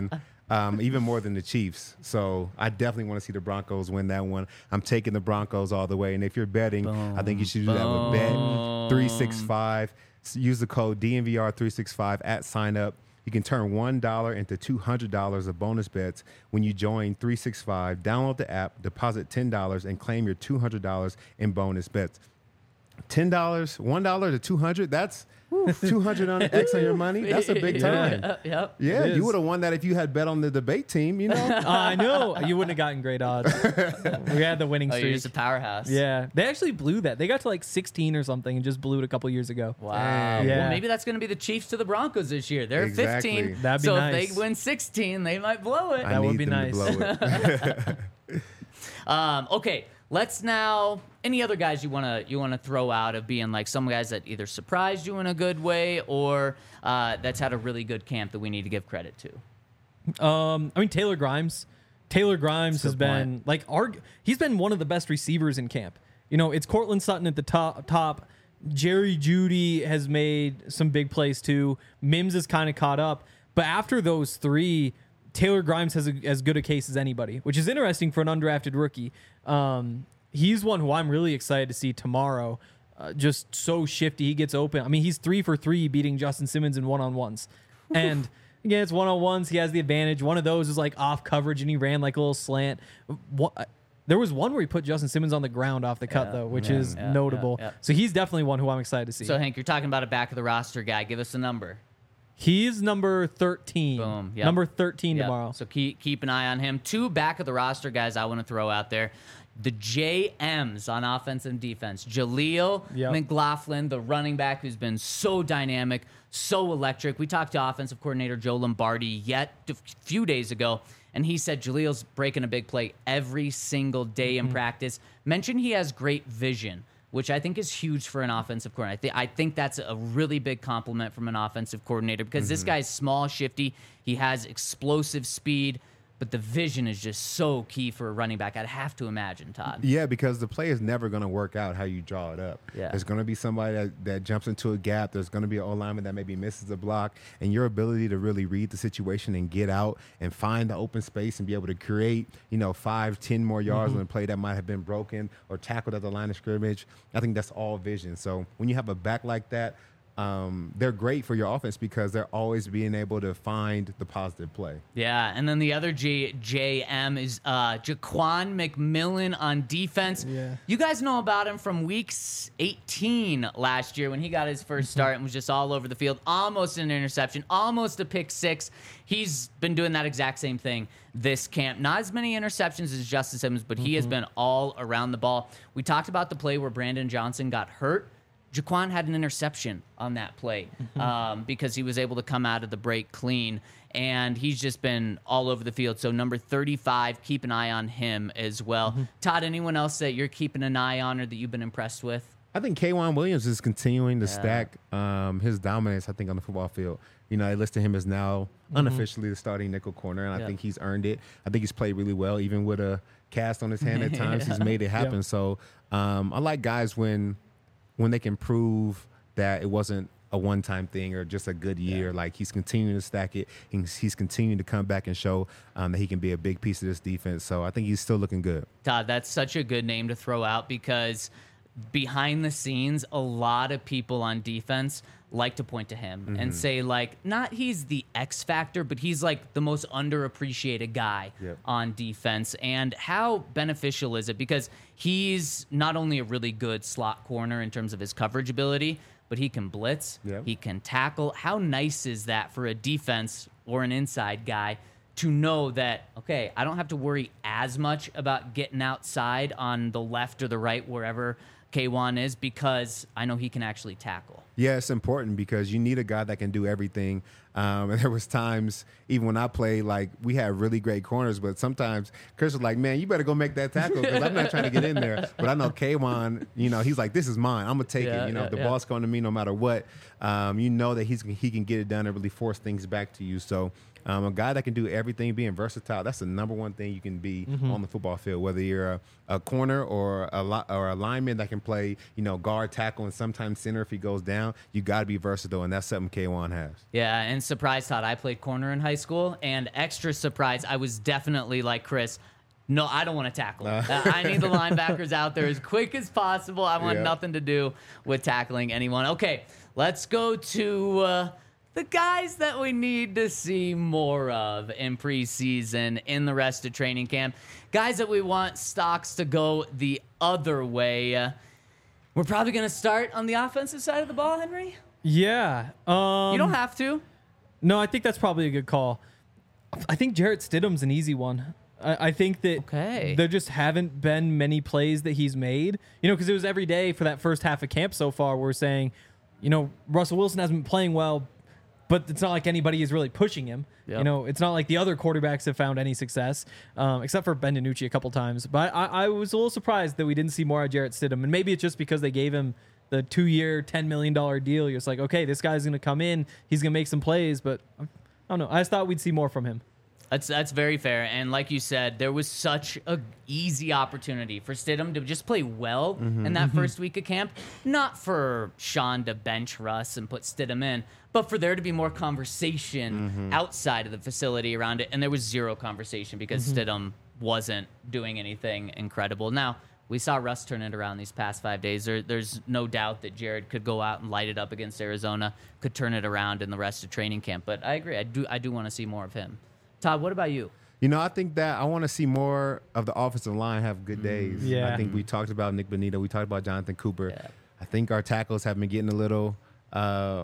[SPEAKER 4] um, even more than the Chiefs. So I definitely want to see the Broncos win that one. I'm taking the Broncos all the way. And if you're betting, boom, I think you should do that with Bet three sixty-five. Use the code D N V R three sixty-five at sign up. You can turn one dollar into two hundred dollars of bonus bets when you join three sixty-five. Download the app, deposit ten dollars, and claim your two hundred dollars in bonus bets. ten dollars, one dollar to two hundred dollars, that's two hundred on X on your money. That's a big time.
[SPEAKER 2] Yeah, yep.
[SPEAKER 4] Yeah,
[SPEAKER 3] It
[SPEAKER 4] you
[SPEAKER 3] is.
[SPEAKER 4] would have won that if you had bet on the debate team, you know?
[SPEAKER 3] Uh, I know. You wouldn't have gotten great odds. We had the winning
[SPEAKER 2] Oh, you're
[SPEAKER 3] streak.
[SPEAKER 2] just a powerhouse.
[SPEAKER 3] Yeah. They actually blew that. They got to like sixteen or something and just blew it a couple years ago.
[SPEAKER 2] Wow.
[SPEAKER 4] Dang.
[SPEAKER 3] Yeah.
[SPEAKER 2] Well, maybe that's going to be the Chiefs to the Broncos this year. They're
[SPEAKER 4] Exactly.
[SPEAKER 2] fifteen.
[SPEAKER 3] That'd be
[SPEAKER 2] so
[SPEAKER 3] nice.
[SPEAKER 2] if they win sixteen, they might blow it.
[SPEAKER 4] I
[SPEAKER 3] That would
[SPEAKER 4] need
[SPEAKER 3] be
[SPEAKER 4] them
[SPEAKER 3] nice.
[SPEAKER 4] to blow it.
[SPEAKER 2] Um, okay, let's now. Any other guys you wanna you wanna throw out of being like some guys that either surprised you in a good way or uh, that's had a really good camp that we need to give credit to?
[SPEAKER 3] Um, I mean Taylor Grimes. Taylor Grimes has
[SPEAKER 4] Good
[SPEAKER 3] been
[SPEAKER 4] point.
[SPEAKER 3] like arg- he's been one of the best receivers in camp. You know, it's Cortland Sutton at the top. Top. Jerry Jeudy has made some big plays too. Mims is kind of caught up, but after those three, Taylor Grimes has a, as good a case as anybody, which is interesting for an undrafted rookie. Um, he's one who I'm really excited to see tomorrow. Uh, just so shifty, he gets open. I mean, he's three for three beating Justin Simmons in one on ones, and again, it's one on ones. He has the advantage. One of those is like off coverage, and he ran like a little slant. What, there was one where he put Justin Simmons on the ground off the cut,
[SPEAKER 2] Yeah,
[SPEAKER 3] though, which
[SPEAKER 2] yeah,
[SPEAKER 3] is
[SPEAKER 2] yeah,
[SPEAKER 3] notable.
[SPEAKER 2] yeah, yeah.
[SPEAKER 3] So he's definitely one who I'm excited to see.
[SPEAKER 2] So Hank, you're talking about a back of the roster guy. Give us a number.
[SPEAKER 3] He's number thirteen.
[SPEAKER 2] Boom. Yep.
[SPEAKER 3] Number thirteen
[SPEAKER 2] Yep.
[SPEAKER 3] tomorrow.
[SPEAKER 2] So keep keep an eye on him. Two back of the roster guys I want to throw out there. The J Ms on offense and defense. Jaleel
[SPEAKER 3] Yep.
[SPEAKER 2] McLaughlin, the running back who's been so dynamic, so electric. We talked to offensive coordinator Joe Lombardi yet a few days ago, and he said Jaleel's breaking a big play every single day
[SPEAKER 3] Mm-hmm.
[SPEAKER 2] in practice. Mentioned he has great vision, which I think is huge for an offensive coordinator. I, th- I think that's a really big compliment from an offensive coordinator because
[SPEAKER 3] Mm-hmm.
[SPEAKER 2] this guy's small, shifty. He has explosive speed, but the vision is just so key for a running back. I'd have to imagine, Todd.
[SPEAKER 4] Yeah, because the play is never going to work out how you draw it up.
[SPEAKER 2] Yeah.
[SPEAKER 4] There's going to be somebody that, that jumps into a gap. There's going to be an O-lineman that maybe misses a block. And your ability to really read the situation and get out and find the open space and be able to create, you know, five, ten more yards on a play that might have been broken or tackled at the line of scrimmage, I think that's all vision. So when you have a back like that, Um, they're great for your offense because they're always being able to find the positive play.
[SPEAKER 2] Yeah, and then the other G- J M is uh, Jaquan McMillan on defense.
[SPEAKER 3] Yeah.
[SPEAKER 2] You guys know about him from week eighteen last year when he got his first start and was just all over the field, almost an interception, almost a pick six. He's been doing that exact same thing this camp. Not as many interceptions as Justice Simmons, but he has been all around the ball. We talked about the play where Brandon Johnson got hurt. Jaquan had an interception on that play um, because he was able to come out of the break clean, and he's just been all over the field. So number thirty-five, keep an eye on him as well. Todd, anyone else that you're keeping an eye on or that you've been impressed with?
[SPEAKER 4] I think K'Wan Williams is continuing to
[SPEAKER 2] Yeah.
[SPEAKER 4] stack um, his dominance, I think, on the football field. You know, they listed him as now unofficially the starting nickel corner, and I
[SPEAKER 2] Yeah.
[SPEAKER 4] think he's earned it. I think he's played really well, even with a cast on his hand at times. He's made it happen.
[SPEAKER 3] Yeah.
[SPEAKER 4] So um, I like guys when when they can prove that it wasn't a one-time thing or just a good year. Like, he's continuing to stack it. He's, he's continuing to come back and show um, that he can be a big piece of this defense. So I think he's still looking good.
[SPEAKER 2] Todd, that's such a good name to throw out because behind the scenes, a lot of people on defense like to point to him and say, like, not he's the X factor, but he's like the most underappreciated guy
[SPEAKER 4] Yep.
[SPEAKER 2] on defense. And how beneficial is it? Because he's not only a really good slot corner in terms of his coverage ability, but he can blitz,
[SPEAKER 4] Yep.
[SPEAKER 2] he can tackle. How nice is that for a defense or an inside guy to know that, okay, I don't have to worry as much about getting outside on the left or the right, wherever K'Wan is, because I know he can actually tackle.
[SPEAKER 4] Yeah, it's important because you need a guy that can do everything. Um, and there was times, even when I played, like, we had really great corners, but sometimes Chris was like, man, you better go make that tackle because I'm not trying to get in there. But I know K'Wan, you know, he's like, this is mine. I'm going to take
[SPEAKER 2] Yeah,
[SPEAKER 4] it. You know,
[SPEAKER 2] yeah,
[SPEAKER 4] if the
[SPEAKER 2] yeah.
[SPEAKER 4] ball's coming to me no matter what, um, you know that he's he can get it done and really force things back to you. So um, a guy that can do everything, being versatile, that's the number one thing you can be on the football field, whether you're a, a corner or a, li- or a lineman that can play, you know, guard, tackle, and sometimes center if he goes down. You got to be versatile, and that's something K'Wan has.
[SPEAKER 2] Yeah, and surprised, Todd. I played corner in high school, and extra surprised, I was definitely like Chris. No, I don't want to tackle. Uh, I need the linebackers out there as quick as possible. I want
[SPEAKER 4] Yeah.
[SPEAKER 2] nothing to do with tackling anyone. Okay, let's go to uh, the guys that we need to see more of in preseason, in the rest of training camp. Guys that we want stocks to go the other way. Uh, we're probably going to start on the offensive side of the ball, Henry.
[SPEAKER 3] Yeah. Um,
[SPEAKER 2] You don't have to.
[SPEAKER 3] No, I think that's probably a good call. I think Jarrett Stidham's an easy one. I, I think that
[SPEAKER 2] Okay.
[SPEAKER 3] there just haven't been many plays that he's made. You know, because it was every day for that first half of camp so far. We're saying, you know, Russell Wilson hasn't been playing well, but it's not like anybody is really pushing him.
[SPEAKER 2] Yep.
[SPEAKER 3] You know, it's not like the other quarterbacks have found any success, um, except for Ben DiNucci a couple times. But I, I was a little surprised that we didn't see more of Jarrett Stidham. And maybe it's just because they gave him the two-year, ten million dollars deal. You're just like, okay, this guy's going to come in. He's going to make some plays. But I don't know. I just thought we'd see more from him.
[SPEAKER 2] That's that's very fair, and like you said, there was such a easy opportunity for Stidham to just play well in that first week of camp. Not for Sean to bench Russ and put Stidham in, but for there to be more conversation outside of the facility around it, and there was zero conversation because Stidham wasn't doing anything incredible. Now, we saw Russ turn it around these past five days. There, there's no doubt that Jared could go out and light it up against Arizona, could turn it around in the rest of training camp. But I agree. I do I do want to see more of him. Todd, what about you?
[SPEAKER 4] You know, I think that I want to see more of the offensive line have good days.
[SPEAKER 3] Yeah.
[SPEAKER 4] I think we talked about Nick Bonito. We talked about Jonathan Cooper.
[SPEAKER 2] Yeah.
[SPEAKER 4] I think our tackles have been getting a little uh,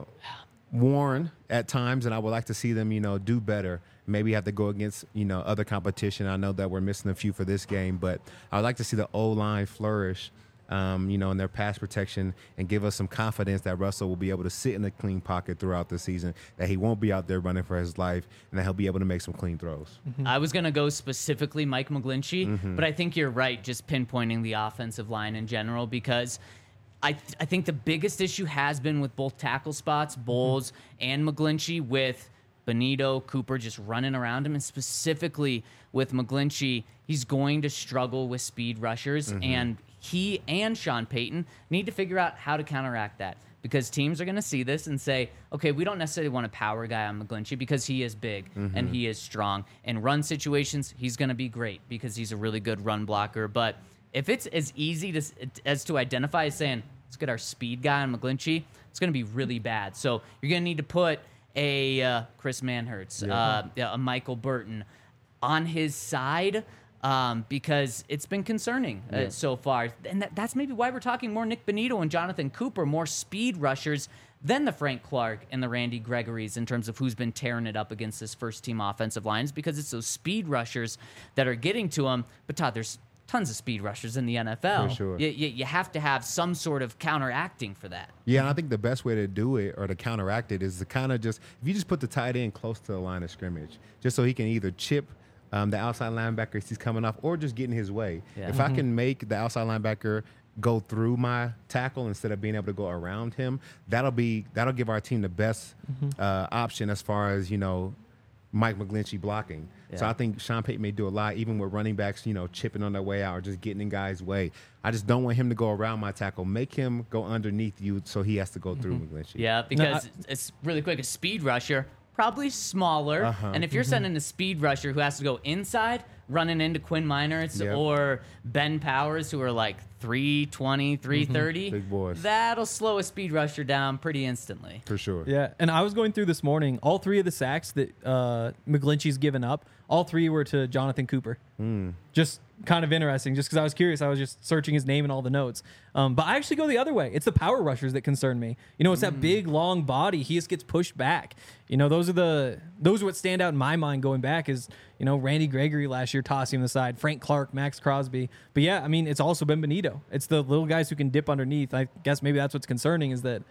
[SPEAKER 4] worn at times, and I would like to see them, you know, do better. Maybe have to go against, you know, other competition. I know that we're missing a few for this game, but I would like to see the O-line flourish, um, you know, in their pass protection and give us some confidence that Russell will be able to sit in a clean pocket throughout the season, that he won't be out there running for his life, and that he'll be able to make some clean throws.
[SPEAKER 2] I was going to go specifically Mike McGlinchey, but I think you're right, just pinpointing the offensive line in general, because I th- I think the biggest issue has been with both tackle spots, Bowles and McGlinchey, with Bonito, Cooper just running around him, and specifically with McGlinchey, he's going to struggle with speed rushers, and he and Sean Payton need to figure out how to counteract that, because teams are going to see this and say, okay, we don't necessarily want a power guy on McGlinchey because he is big and he is strong. In run situations, he's going to be great because he's a really good run blocker. But if it's as easy to, as to identify as saying, let's get our speed guy on McGlinchey, it's going to be really bad. So you're going to need to put a uh, Chris Manhertz, uh, a Michael Burton on his side, um, because it's been concerning uh,
[SPEAKER 4] Yeah.
[SPEAKER 2] so far. And that, that's maybe why we're talking more Nick Bonito and Jonathan Cooper, more speed rushers than the Frank Clark and the Randy Gregory's in terms of who's been tearing it up against this first-team offensive lines, because it's those speed rushers that are getting to them. But, Todd, there's tons of speed rushers in the N F L.
[SPEAKER 4] For sure.
[SPEAKER 2] You, you, you have to have some sort of counteracting for that.
[SPEAKER 4] Yeah, and I think the best way to do it or to counteract it is to kind of just, if you just put the tight end close to the line of scrimmage, just so he can either chip um, the outside linebacker as he's coming off or just get in his way.
[SPEAKER 2] Yeah.
[SPEAKER 4] If I can make the outside linebacker go through my tackle instead of being able to go around him, that'll be that'll give our team the best uh, option as far as, you know, Mike McGlinchey blocking. So
[SPEAKER 2] Yeah.
[SPEAKER 4] I think Sean Payton may do a lot, even with running backs, you know, chipping on their way out or just getting in guys' way. I just don't want him to go around my tackle. Make him go underneath you so he has to go through McGlinchey.
[SPEAKER 2] Yeah, because it's really quick. A speed rusher, probably smaller.
[SPEAKER 4] Uh-huh.
[SPEAKER 2] And if you're sending a speed rusher who has to go inside, running into Quinn Meinertz
[SPEAKER 4] Yep.
[SPEAKER 2] or Ben Powers, who are like three twenty, three thirty,
[SPEAKER 4] Big boys.
[SPEAKER 2] that'll slow a speed rusher down pretty instantly.
[SPEAKER 4] For sure.
[SPEAKER 3] Yeah, and I was going through this morning. All three of the sacks that uh, McGlinchey's given up, all three were to Jonathan Cooper. Just kind of interesting, just because I was curious. I was just searching his name in all the notes. Um, but I actually go the other way. It's the power rushers that concern me. You know, it's that big, long body. He just gets pushed back. You know, those are the those are what stand out in my mind going back is, you know, Randy Gregory last year tossing him aside, Frank Clark, Max Crosby. But yeah, I mean, it's also been Bonito. It's the little guys who can dip underneath. I guess maybe that's what's concerning is that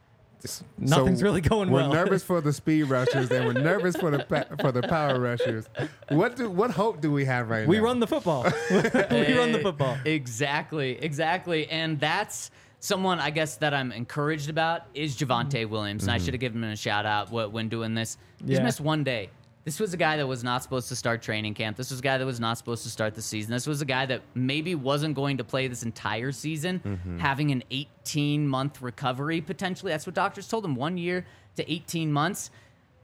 [SPEAKER 3] nothing's
[SPEAKER 4] So
[SPEAKER 3] really going
[SPEAKER 4] we're
[SPEAKER 3] well.
[SPEAKER 4] We're nervous for the speed rushers and we're nervous for the pa- for the power rushers. What do what hope do we have right
[SPEAKER 3] we
[SPEAKER 4] now?
[SPEAKER 3] run the football. we run the football.
[SPEAKER 2] Exactly, exactly. And that's someone, I guess, that I'm encouraged about is Javonte Williams. And I should have given him a shout out wh- when doing this. He's
[SPEAKER 3] Yeah.
[SPEAKER 2] missed one day. This was a guy that was not supposed to start training camp. This was a guy that was not supposed to start the season. This was a guy that maybe wasn't going to play this entire season, having an eighteen-month recovery potentially. That's what doctors told him, one year to eighteen months.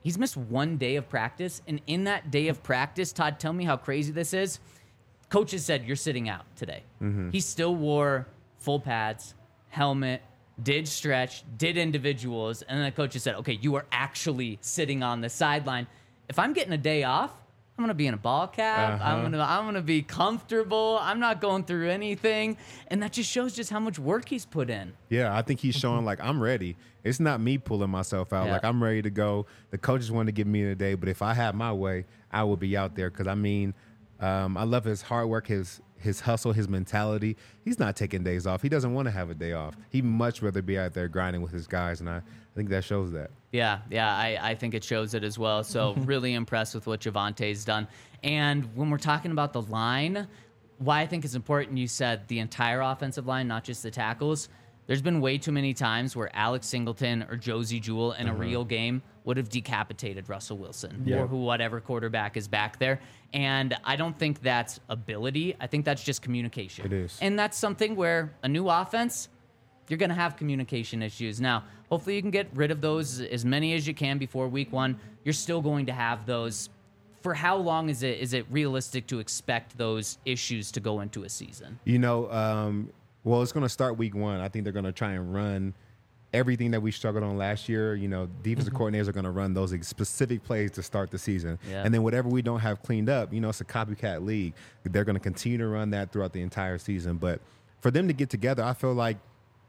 [SPEAKER 2] he's missed one day of practice. And in that day of practice, Todd, tell me how crazy this is. Coaches said, you're sitting out today. Mm-hmm. He still wore full pads, helmet, did stretch, did individuals. And then the coaches said, okay, you are actually sitting on the sideline. If I'm getting a day off, I'm gonna be in a ball cap.
[SPEAKER 4] Uh-huh.
[SPEAKER 2] I'm gonna I'm gonna be comfortable. I'm not going through anything, and that just shows just how much work he's put in.
[SPEAKER 4] Yeah, I think he's showing like I'm ready. It's not me pulling myself out.
[SPEAKER 2] Yeah.
[SPEAKER 4] Like I'm ready to go. The coaches want to give me a day, but if I had my way, I would be out there. Because I mean, um, I love his hard work, his his hustle, his mentality. He's not taking days off. He doesn't want to have a day off. He'd much rather be out there grinding with his guys, and I, I think that shows that.
[SPEAKER 2] Yeah, yeah, I, I think it shows it as well. So really impressed with what Javonte's done. And when we're talking about the line, why I think it's important, you said the entire offensive line, not just the tackles. There's been way too many times where Alex Singleton or Josie Jewell in a
[SPEAKER 4] Uh-huh.
[SPEAKER 2] real game would have decapitated Russell Wilson
[SPEAKER 3] Yeah.
[SPEAKER 2] or who whatever quarterback is back there. And I don't think that's ability. I think that's just communication.
[SPEAKER 4] It is.
[SPEAKER 2] And that's something where a new offense, you're going to have communication issues. Now, hopefully you can get rid of those as many as you can before week one. You're still going to have those. For how long is it is it realistic to expect those issues to go into a season?
[SPEAKER 4] You know, um, well, it's going to start week one. I think they're going to try and run everything that we struggled on last year. You know, defensive coordinators are going to run those specific plays to start the season.
[SPEAKER 2] Yeah.
[SPEAKER 4] And then whatever we don't have cleaned up, you know, it's a copycat league. They're going to continue to run that throughout the entire season. But for them to get together, I feel like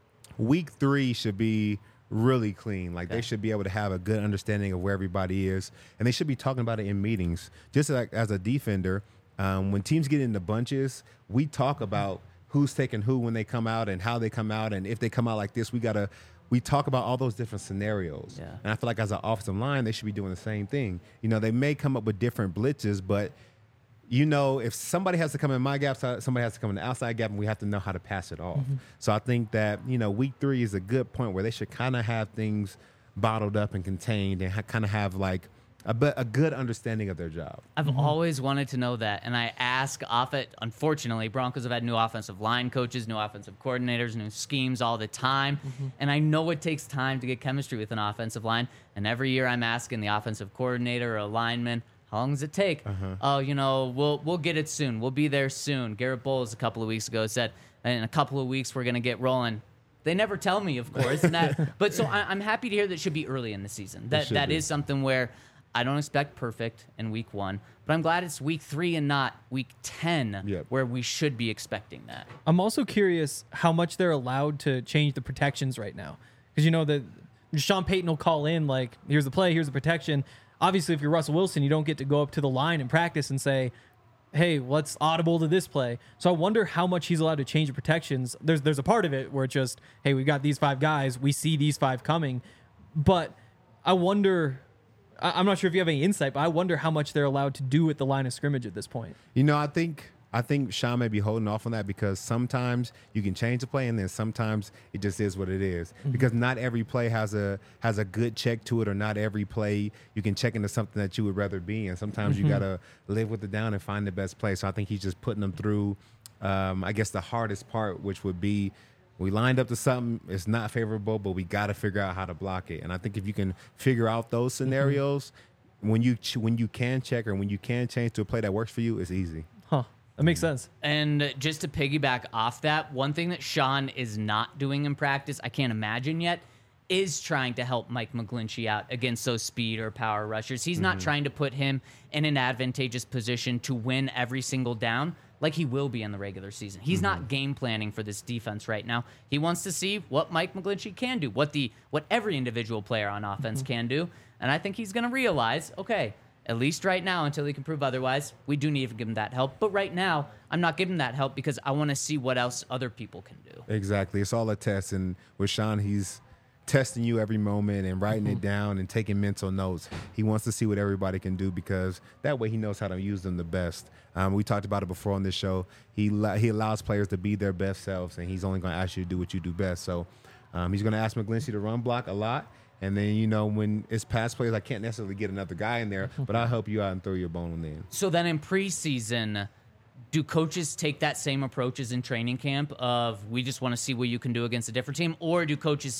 [SPEAKER 4] week three should be really clean. Like, they should be able to have a good understanding of where everybody is, and they should be talking about it in meetings. Just like as a defender, um, when teams get into bunches, we talk about who's taking who when they come out and how they come out, and if they come out like this, we gotta we talk about all those different scenarios.
[SPEAKER 2] Yeah.
[SPEAKER 4] And I feel like as an offensive line, they should be doing the same thing. You know, they may come up with different blitzes, but you know, if somebody has to come in my gap, somebody has to come in the outside gap, and we have to know how to pass it off. Mm-hmm. So I think that, you know, week three is a good point where they should kind of have things bottled up and contained and ha- kind of have like a, be- a good understanding of their job.
[SPEAKER 2] I've always wanted to know that, and I ask off it. Unfortunately, Broncos have had new offensive line coaches, new offensive coordinators, new schemes all the time, and I know it takes time to get chemistry with an offensive line, and every year I'm asking the offensive coordinator or a lineman, how long does it take?
[SPEAKER 4] Uh-huh.
[SPEAKER 2] Oh, you know, we'll we'll get it soon. We'll be there soon. Garrett Bowles a couple of weeks ago said, in a couple of weeks we're gonna get rolling. They never tell me, of course, and that. But so I, I'm happy to hear that it should be early in the season. That
[SPEAKER 4] should
[SPEAKER 2] that
[SPEAKER 4] be.
[SPEAKER 2] is something where I don't expect perfect in week one, but I'm glad it's week three and not week ten,
[SPEAKER 4] Yep.
[SPEAKER 2] where we should be expecting that.
[SPEAKER 3] I'm also curious how much they're allowed to change the protections right now. Because, you know, the Sean Payton will call in, like, here's the play, here's the protection. Obviously, if you're Russell Wilson, you don't get to go up to the line and practice and say, hey, let's audible to this play. So I wonder how much he's allowed to change the protections. There's there's a part of it where it's just, hey, we've got these five guys. We see these five coming. But I wonder, I- I'm not sure if you have any insight, but I wonder how much they're allowed to do at the line of scrimmage at this point.
[SPEAKER 4] You know, I think I think Sean may be holding off on that because sometimes you can change the play, and then sometimes it just is what it is.
[SPEAKER 3] Mm-hmm.
[SPEAKER 4] Because not every play has a has a good check to it, or not every play you can check into something that you would rather be in. Sometimes
[SPEAKER 3] Mm-hmm.
[SPEAKER 4] you gotta live with it down and find the best play. So I think he's just putting them through. Um, I guess the hardest part, which would be, we lined up to something, it's not favorable, but we got to figure out how to block it. And I think if you can figure out those
[SPEAKER 3] Mm-hmm.
[SPEAKER 4] scenarios, when you ch- when you can check or when you can change to a play that works for you, it's easy.
[SPEAKER 3] Huh. That makes sense.
[SPEAKER 2] And just to piggyback off that, one thing that Sean is not doing in practice, I can't imagine yet, is trying to help Mike McGlinchey out against those speed or power rushers. He's not trying to put him in an advantageous position to win every single down like he will be in the regular season. He's not game planning for this defense right now. He wants to see what Mike McGlinchey can do, what the what every individual player on offense can do. And I think he's going to realize, okay, at least right now, until he can prove otherwise, we do need to give him that help. But right now, I'm not giving that help because I want to see what else other people can do.
[SPEAKER 4] Exactly. It's all a test. And with Sean, he's testing you every moment and writing it down and taking mental notes. He wants to see what everybody can do because that way he knows how to use them the best. Um, we talked about it before on this show. He he allows players to be their best selves, and he's only going to ask you to do what you do best. So um, he's going to ask McGlinchey to run block a lot. And then, you know, when it's pass plays, I can't necessarily get another guy in there, but I'll help you out and throw your bone in.
[SPEAKER 2] So then in preseason, do coaches take that same approach as in training camp of we just want to see what you can do against a different team? Or do coaches say,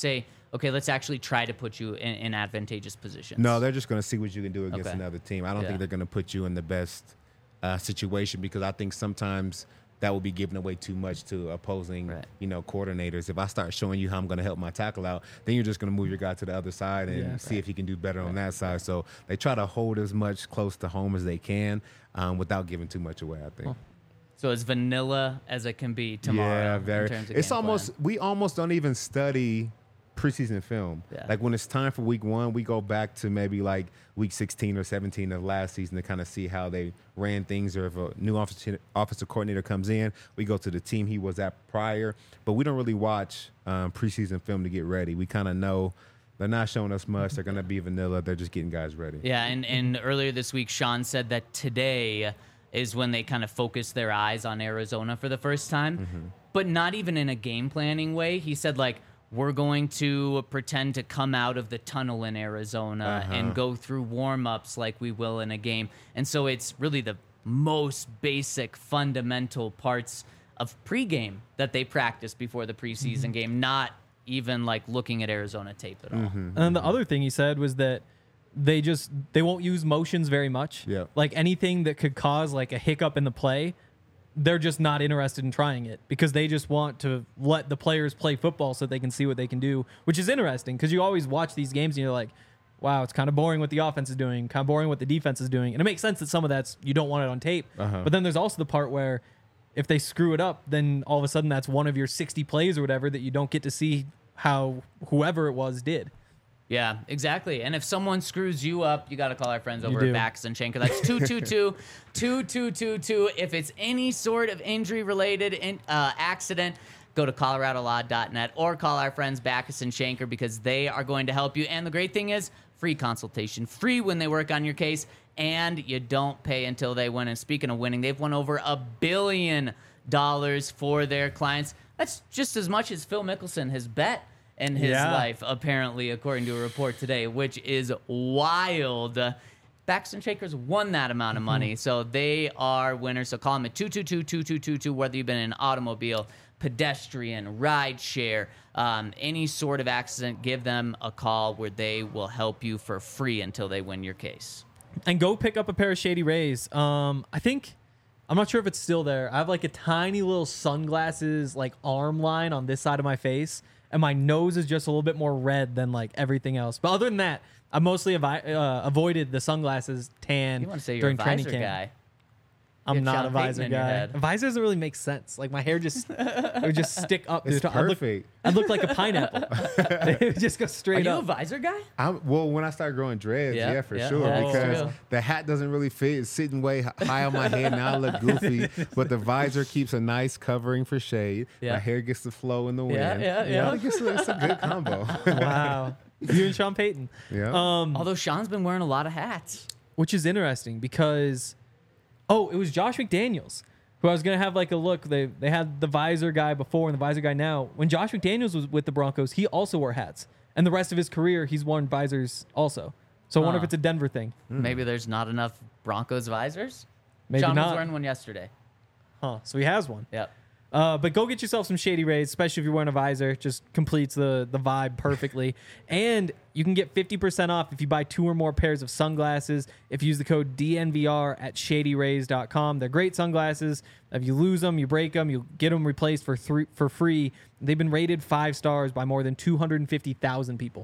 [SPEAKER 2] okay, let's actually try to put you in, in advantageous positions?
[SPEAKER 4] No, they're just going to see what you can do against
[SPEAKER 2] Okay.
[SPEAKER 4] another team. I don't
[SPEAKER 2] Yeah.
[SPEAKER 4] think they're going to put you in the best uh, situation because I think sometimes that will be giving away too much to opposing,
[SPEAKER 2] Right.
[SPEAKER 4] you know, coordinators. If I start showing you how I'm going to help my tackle out, then you're just going to move your guy to the other side and
[SPEAKER 3] Yeah.
[SPEAKER 4] see if he can do better on that side. So they try to hold as much close to home as they can um, without giving too much away, I think.
[SPEAKER 2] So as vanilla as it can be tomorrow.
[SPEAKER 4] Yeah,
[SPEAKER 2] in
[SPEAKER 4] very.
[SPEAKER 2] terms of
[SPEAKER 4] It's
[SPEAKER 2] game
[SPEAKER 4] almost
[SPEAKER 2] plan.
[SPEAKER 4] we almost don't even study preseason film.
[SPEAKER 2] Yeah.
[SPEAKER 4] Like when it's time for week one, we go back to maybe like week sixteen or seventeen of last season to kind of see how they ran things, or if a new offensive offensive coordinator comes in, we go to the team he was at prior. But we don't really watch um, preseason film to get ready. We kind of know they're not showing us much. They're going to be vanilla. They're just getting guys ready.
[SPEAKER 2] Yeah, and, and earlier this week, Sean said that today is when they kind of focused their eyes on Arizona for the first time,
[SPEAKER 4] Mm-hmm.
[SPEAKER 2] but not even in a game planning way. He said, like, we're going to pretend to come out of the tunnel in Arizona
[SPEAKER 4] Uh-huh.
[SPEAKER 2] and go through warm-ups like we will in a game. And so it's really the most basic, fundamental parts of pregame that they practice before the preseason
[SPEAKER 4] Mm-hmm.
[SPEAKER 2] game, not even like looking at Arizona tape at all.
[SPEAKER 3] And then the other thing he said was that they just they won't use motions very much.
[SPEAKER 4] Yeah.
[SPEAKER 3] Like anything that could cause like a hiccup in the play, they're just not interested in trying it because they just want to let the players play football so they can see what they can do, which is interesting because you always watch these games and you're like, wow, it's kind of boring what the offense is doing, kind of boring what the defense is doing. And it makes sense that some of that's you don't want it on tape.
[SPEAKER 4] Uh-huh.
[SPEAKER 3] But then there's also the part where if they screw it up, then all of a sudden that's one of your sixty plays or whatever that you don't get to see how whoever it was did.
[SPEAKER 2] Yeah, exactly. And if someone screws you up, you got to call our friends over
[SPEAKER 3] do.
[SPEAKER 2] at Backus and Schenker. That's two two two, two two two two. If it's any sort of injury-related in, uh, accident, go to colorado law dot net or call our friends Backus and Schenker because they are going to help you. And the great thing is, free consultation, free when they work on your case, and you don't pay until they win. And speaking of winning, they've won over a billion dollars for their clients. That's just as much as Phil Mickelson has bet in his
[SPEAKER 3] Yeah.
[SPEAKER 2] life, apparently, according to a report today, which is wild. Uh, Backus and Shakers won that amount of money, so they are winners. So call them at two two two, two two two two, whether you've been in an automobile, pedestrian, ride share, um, any sort of accident, give them a call where they will help you for free until they win your case.
[SPEAKER 3] And go pick up a pair of Shady Rays. Um, I think I'm not sure if it's still there. I have like a tiny little sunglasses like arm line on this side of my face, and my nose is just a little bit more red than like everything else. But other than that, I mostly avi- uh, avoided the sunglasses tan
[SPEAKER 2] You want to say you're
[SPEAKER 3] during
[SPEAKER 2] a
[SPEAKER 3] training
[SPEAKER 2] visor
[SPEAKER 3] camp.
[SPEAKER 2] guy.
[SPEAKER 3] I'm
[SPEAKER 2] You have
[SPEAKER 3] not
[SPEAKER 2] Sean
[SPEAKER 3] a
[SPEAKER 2] Payton
[SPEAKER 3] visor
[SPEAKER 2] in your
[SPEAKER 3] guy.
[SPEAKER 2] head.
[SPEAKER 3] A visor doesn't really make sense. Like my hair just it would just stick up.
[SPEAKER 4] It's
[SPEAKER 3] dude. I'd look-
[SPEAKER 4] perfect.
[SPEAKER 3] I'd look like a pineapple. It would just go
[SPEAKER 2] Are
[SPEAKER 3] straight
[SPEAKER 2] you a
[SPEAKER 3] up.
[SPEAKER 2] visor guy?
[SPEAKER 4] I'm, well, when I start growing dreads,
[SPEAKER 2] Yeah,
[SPEAKER 4] yeah, for
[SPEAKER 2] yeah.
[SPEAKER 4] sure,
[SPEAKER 2] That's
[SPEAKER 4] because
[SPEAKER 2] true.
[SPEAKER 4] the hat doesn't really fit. It's sitting way h- high on my head. Now I look goofy, but the visor keeps a nice covering for shade.
[SPEAKER 2] Yeah.
[SPEAKER 4] My hair gets to flow in the wind.
[SPEAKER 2] Yeah, yeah, yeah.
[SPEAKER 4] I think it's a, it's a good combo.
[SPEAKER 3] Wow. You and Sean Payton.
[SPEAKER 4] yeah.
[SPEAKER 3] Um,
[SPEAKER 2] Although Sean's been wearing a lot of hats.
[SPEAKER 3] which is interesting because oh, it was Josh McDaniels who I was gonna have like a look. They they had the visor guy before and the visor guy now. When Josh McDaniels was with the Broncos, he also wore hats, and the rest of his career he's worn visors also. So I wonder
[SPEAKER 2] Huh.
[SPEAKER 3] if it's a Denver thing.
[SPEAKER 2] Maybe there's not enough Broncos visors.
[SPEAKER 3] Maybe
[SPEAKER 2] Sean was
[SPEAKER 3] not.
[SPEAKER 2] wearing one yesterday.
[SPEAKER 3] Huh? So he has one.
[SPEAKER 2] Yep.
[SPEAKER 3] Uh, but go get yourself some Shady Rays, especially if you're wearing a visor. Just completes the the vibe perfectly. And you can get fifty percent off if you buy two or more pairs of sunglasses if you use the code D N V R at shady rays dot com. They're great sunglasses. If you lose them, you break them, you get them replaced for three, for free. They've been rated five stars by more than two hundred fifty thousand people.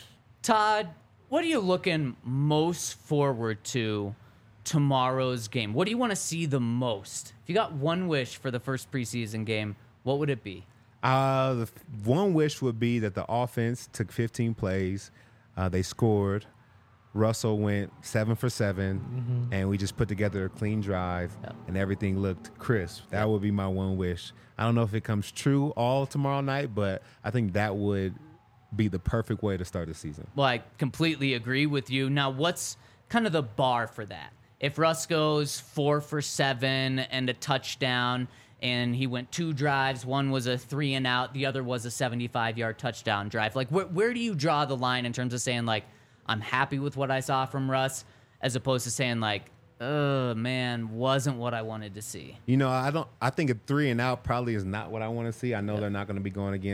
[SPEAKER 2] Todd, what are you looking most forward to tomorrow's game? What do you want to see the most? If you got one wish for the first preseason game, what would it be?
[SPEAKER 4] Uh, the f- one wish would be that the offense took fifteen plays. Uh, they scored. Russell went seven for seven, and we just put together a clean drive,
[SPEAKER 2] Yep.
[SPEAKER 4] and everything looked crisp. That would be my one wish. I don't know if it comes true all tomorrow night, but I think that would be the perfect way to start the season.
[SPEAKER 2] Well, I completely agree with you. Now, what's kind of the bar for that? If Russ goes four for seven and a touchdown, and he went two drives, one was a three and out, the other was a seventy-five yard touchdown drive. Like, where, where do you draw the line in terms of saying, like, I'm happy with what I saw from Russ, as opposed to saying, like, oh, man, wasn't what I wanted to see?
[SPEAKER 4] You know, I don't. I think a three and out probably is not what I want to see. I know they're not going to be going against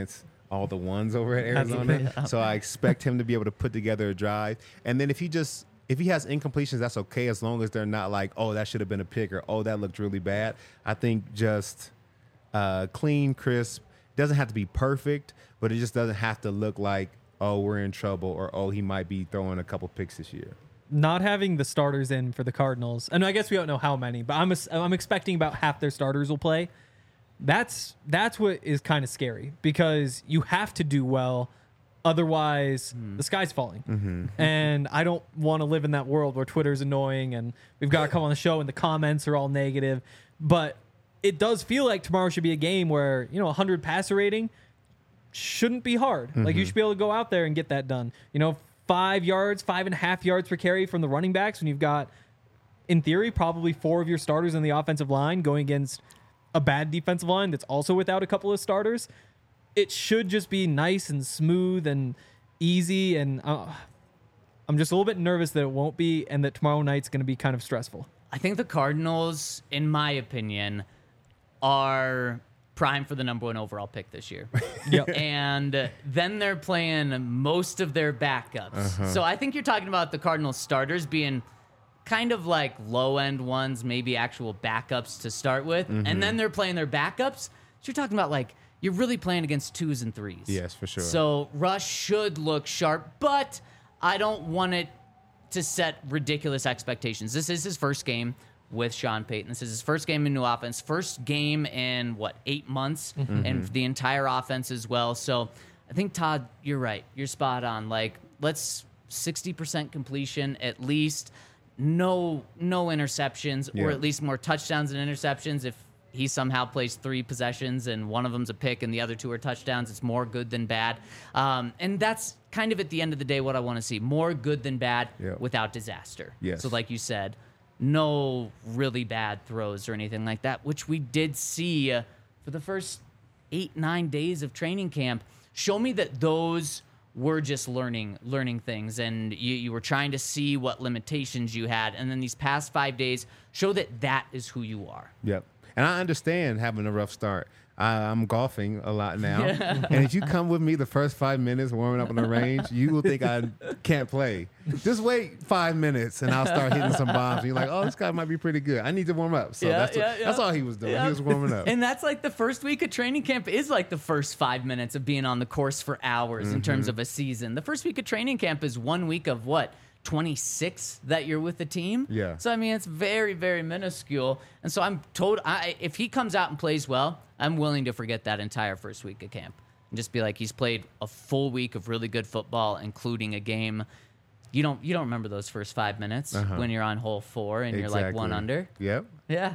[SPEAKER 4] all the ones over at
[SPEAKER 3] That's the
[SPEAKER 4] Arizona.
[SPEAKER 3] thing.
[SPEAKER 4] So I expect him to be able to put together a drive. And then if he just if he has incompletions, that's okay as long as they're not like, oh, that should have been a pick or oh, that looked really bad. I think just uh, clean, crisp. Doesn't have to be perfect, but it just doesn't have to look like, oh, we're in trouble or oh, he might be throwing a couple picks this year.
[SPEAKER 3] Not having the starters in for the Cardinals, and I guess we don't know how many, but I'm I'm expecting about half their starters will play. That's that's what is kind of scary because you have to do well, otherwise mm. the sky's falling. Mm-hmm. And I don't want to live in that world where Twitter's annoying and we've got to come on the show and the comments are all negative. But it does feel like tomorrow should be a game where, you know, one hundred passer rating shouldn't be hard. Mm-hmm. Like you should be able to go out there and get that done. You know, five yards, five and a half yards per carry from the running backs when you've got, in theory, probably four of your starters on the offensive line going against a bad defensive line that's also without a couple of starters. It should just be nice and smooth and easy. And uh, I'm just a little bit nervous that it won't be and that tomorrow night's going to be kind of stressful.
[SPEAKER 2] I think the Cardinals, in my opinion, are prime for the number one overall pick this year.
[SPEAKER 3] Yep.
[SPEAKER 2] And then they're playing most of their backups. Uh-huh. So I think you're talking about the Cardinals starters being kind of like low-end ones, maybe actual backups to start with. Mm-hmm. And then they're playing their backups. So you're talking about like, you're really playing against twos and threes.
[SPEAKER 4] Yes, for sure.
[SPEAKER 2] So Rush should look sharp, but I don't want it to set ridiculous expectations. This is his first game with Sean Payton. This is his first game in new offense, first game in, what, eight months, mm-hmm. and the entire offense as well. So I think, Todd, you're right. You're spot on. Like, let's sixty percent completion at least, no no interceptions,
[SPEAKER 4] yeah.
[SPEAKER 2] or at least more touchdowns than interceptions. If he somehow plays three possessions and one of them's a pick and the other two are touchdowns, it's more good than bad. Um, and that's kind of at the end of the day what I want to see. More good than bad
[SPEAKER 4] yeah.
[SPEAKER 2] without disaster.
[SPEAKER 4] Yes.
[SPEAKER 2] So like you said, no really bad throws or anything like that, which we did see uh, for the first eight, nine days of training camp. Show me that those were just learning learning things, and you, you were trying to see what limitations you had. And then these past five days, show that that is who you are.
[SPEAKER 4] Yep. And I understand having a rough start. I, I'm golfing a lot now. Yeah. And if you come with me the first five minutes warming up on the range, you will think I can't play. Just wait five minutes and I'll start hitting some bombs. And you're like, oh, this guy might be pretty good. I need to warm up. So
[SPEAKER 2] yeah,
[SPEAKER 4] that's,
[SPEAKER 2] yeah,
[SPEAKER 4] what,
[SPEAKER 2] yeah.
[SPEAKER 4] that's all he was doing. Yeah. He was warming up.
[SPEAKER 2] And that's like the first week of training camp is like the first five minutes of being on the course for hours mm-hmm. in terms of a season. The first week of training camp is one week of what? twenty-six that you're with the team.
[SPEAKER 4] Yeah.
[SPEAKER 2] So I mean, it's very, very minuscule. And so I'm told, I if he comes out and plays well, I'm willing to forget that entire first week of camp and just be like, he's played a full week of really good football, including a game. You don't you don't remember those first five minutes uh-huh. when you're on hole four and
[SPEAKER 4] exactly.
[SPEAKER 2] you're like one under.
[SPEAKER 4] Yep.
[SPEAKER 2] Yeah.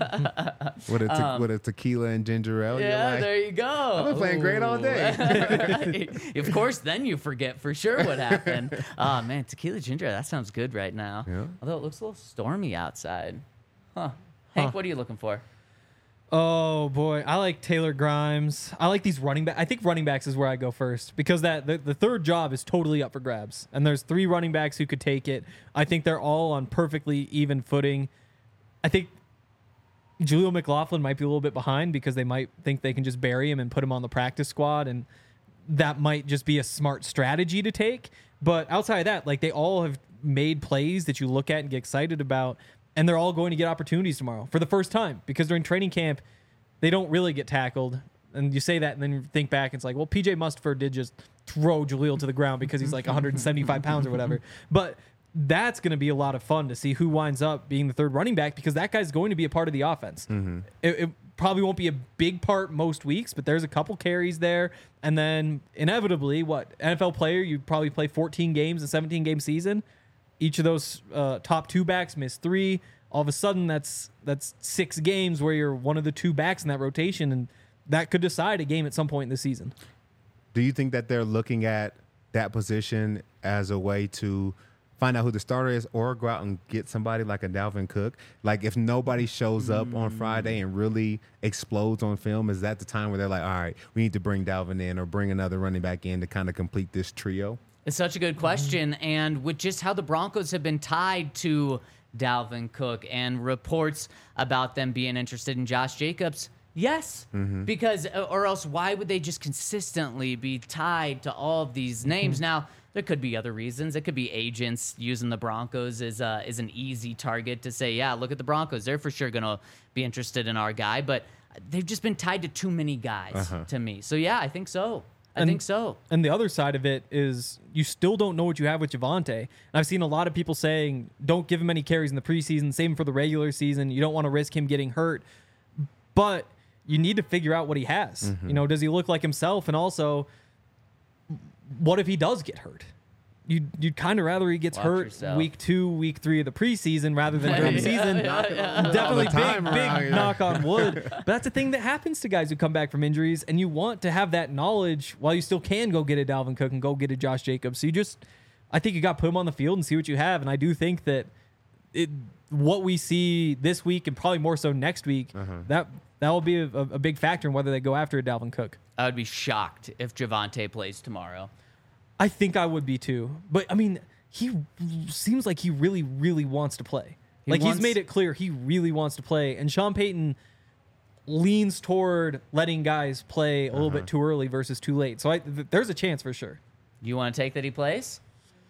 [SPEAKER 4] with, a te- um, with a tequila and ginger ale.
[SPEAKER 2] Yeah,
[SPEAKER 4] like,
[SPEAKER 2] there you go.
[SPEAKER 4] I've been playing Ooh. great all day.
[SPEAKER 2] Right. Of course, then you forget for sure what happened. Oh, man, tequila ginger ale, that sounds good right now.
[SPEAKER 4] Yeah.
[SPEAKER 2] Although it looks a little stormy outside. Huh. Hank,
[SPEAKER 3] huh.
[SPEAKER 2] what are you looking for?
[SPEAKER 3] Oh boy, I like Taylor Grimes. I like these running backs. I think running backs is where I go first because that the, the third job is totally up for grabs. And there's three running backs who could take it. I think they're all on perfectly even footing. I think Julio McLaughlin might be a little bit behind because they might think they can just bury him and put him on the practice squad, and that might just be a smart strategy to take. But outside of that, like they all have made plays that you look at and get excited about. And they're all going to get opportunities tomorrow for the first time because during training camp, they don't really get tackled. And you say that and then you think back, it's like, well, P J Mustipher did just throw Jaleel to the ground because he's like one hundred seventy-five pounds or whatever. But that's going to be a lot of fun to see who winds up being the third running back because that guy's going to be a part of the offense. Mm-hmm. It, it probably won't be a big part most weeks, but there's a couple carries there. And then inevitably, what, N F L player, you probably play fourteen games, a seventeen-game season. Each of those uh, top two backs miss three. All of a sudden, that's that's six games where you're one of the two backs in that rotation, and that could decide a game at some point in the season.
[SPEAKER 4] Do you think that they're looking at that position as a way to find out who the starter is or go out and get somebody like a Dalvin Cook? Like, if nobody shows up mm. on Friday and really explodes on film, is that the time where they're like, all right, we need to bring Dalvin in or bring another running back in to kind of complete this trio?
[SPEAKER 2] It's such a good question. And with just how the Broncos have been tied to Dalvin Cook and reports about them being interested in Josh Jacobs, Yes, because or else why would they just consistently be tied to all of these names? Now there could be other reasons. It could be agents using the Broncos as uh, is an easy target to say, yeah, look at the Broncos. They're for sure gonna be interested in our guy, but they've just been tied to too many guys
[SPEAKER 4] Uh-huh.
[SPEAKER 2] to me. So yeah, I think so. I
[SPEAKER 3] And-
[SPEAKER 2] think so.
[SPEAKER 3] And the other side of it is you still don't know what you have with Javonte. And I've seen a lot of people saying, don't give him any carries in the preseason, same for the regular season. You don't want to risk him getting hurt. But you need to figure out what he has.
[SPEAKER 4] Mm-hmm.
[SPEAKER 3] You know, does he look like himself? And also, what if he does get hurt? You'd, you'd kind of rather he gets
[SPEAKER 2] Watch
[SPEAKER 3] hurt
[SPEAKER 2] yourself.
[SPEAKER 3] week two, week three of the preseason rather than during the season. Definitely
[SPEAKER 4] All the time
[SPEAKER 3] big,
[SPEAKER 4] around
[SPEAKER 3] big
[SPEAKER 4] here.
[SPEAKER 3] knock on wood. But that's the thing that happens to guys who come back from injuries, and you want to have that knowledge while you still can go get a Dalvin Cook and go get a Josh Jacobs. So you just, I think you got to put him on the field and see what you have. And I do think that it, what we see this week and probably more so next week, that that will be a, a big factor in whether they go after a Dalvin Cook.
[SPEAKER 2] I would be shocked if Javonte plays tomorrow.
[SPEAKER 3] I think I would be too. But I mean, he seems like he really, really wants to play.
[SPEAKER 2] He
[SPEAKER 3] like
[SPEAKER 2] wants-
[SPEAKER 3] he's made it clear he really wants to play. And Sean Payton leans toward letting guys play a little bit too early versus too late. So I, th- there's a chance for sure.
[SPEAKER 2] You want to take that he plays?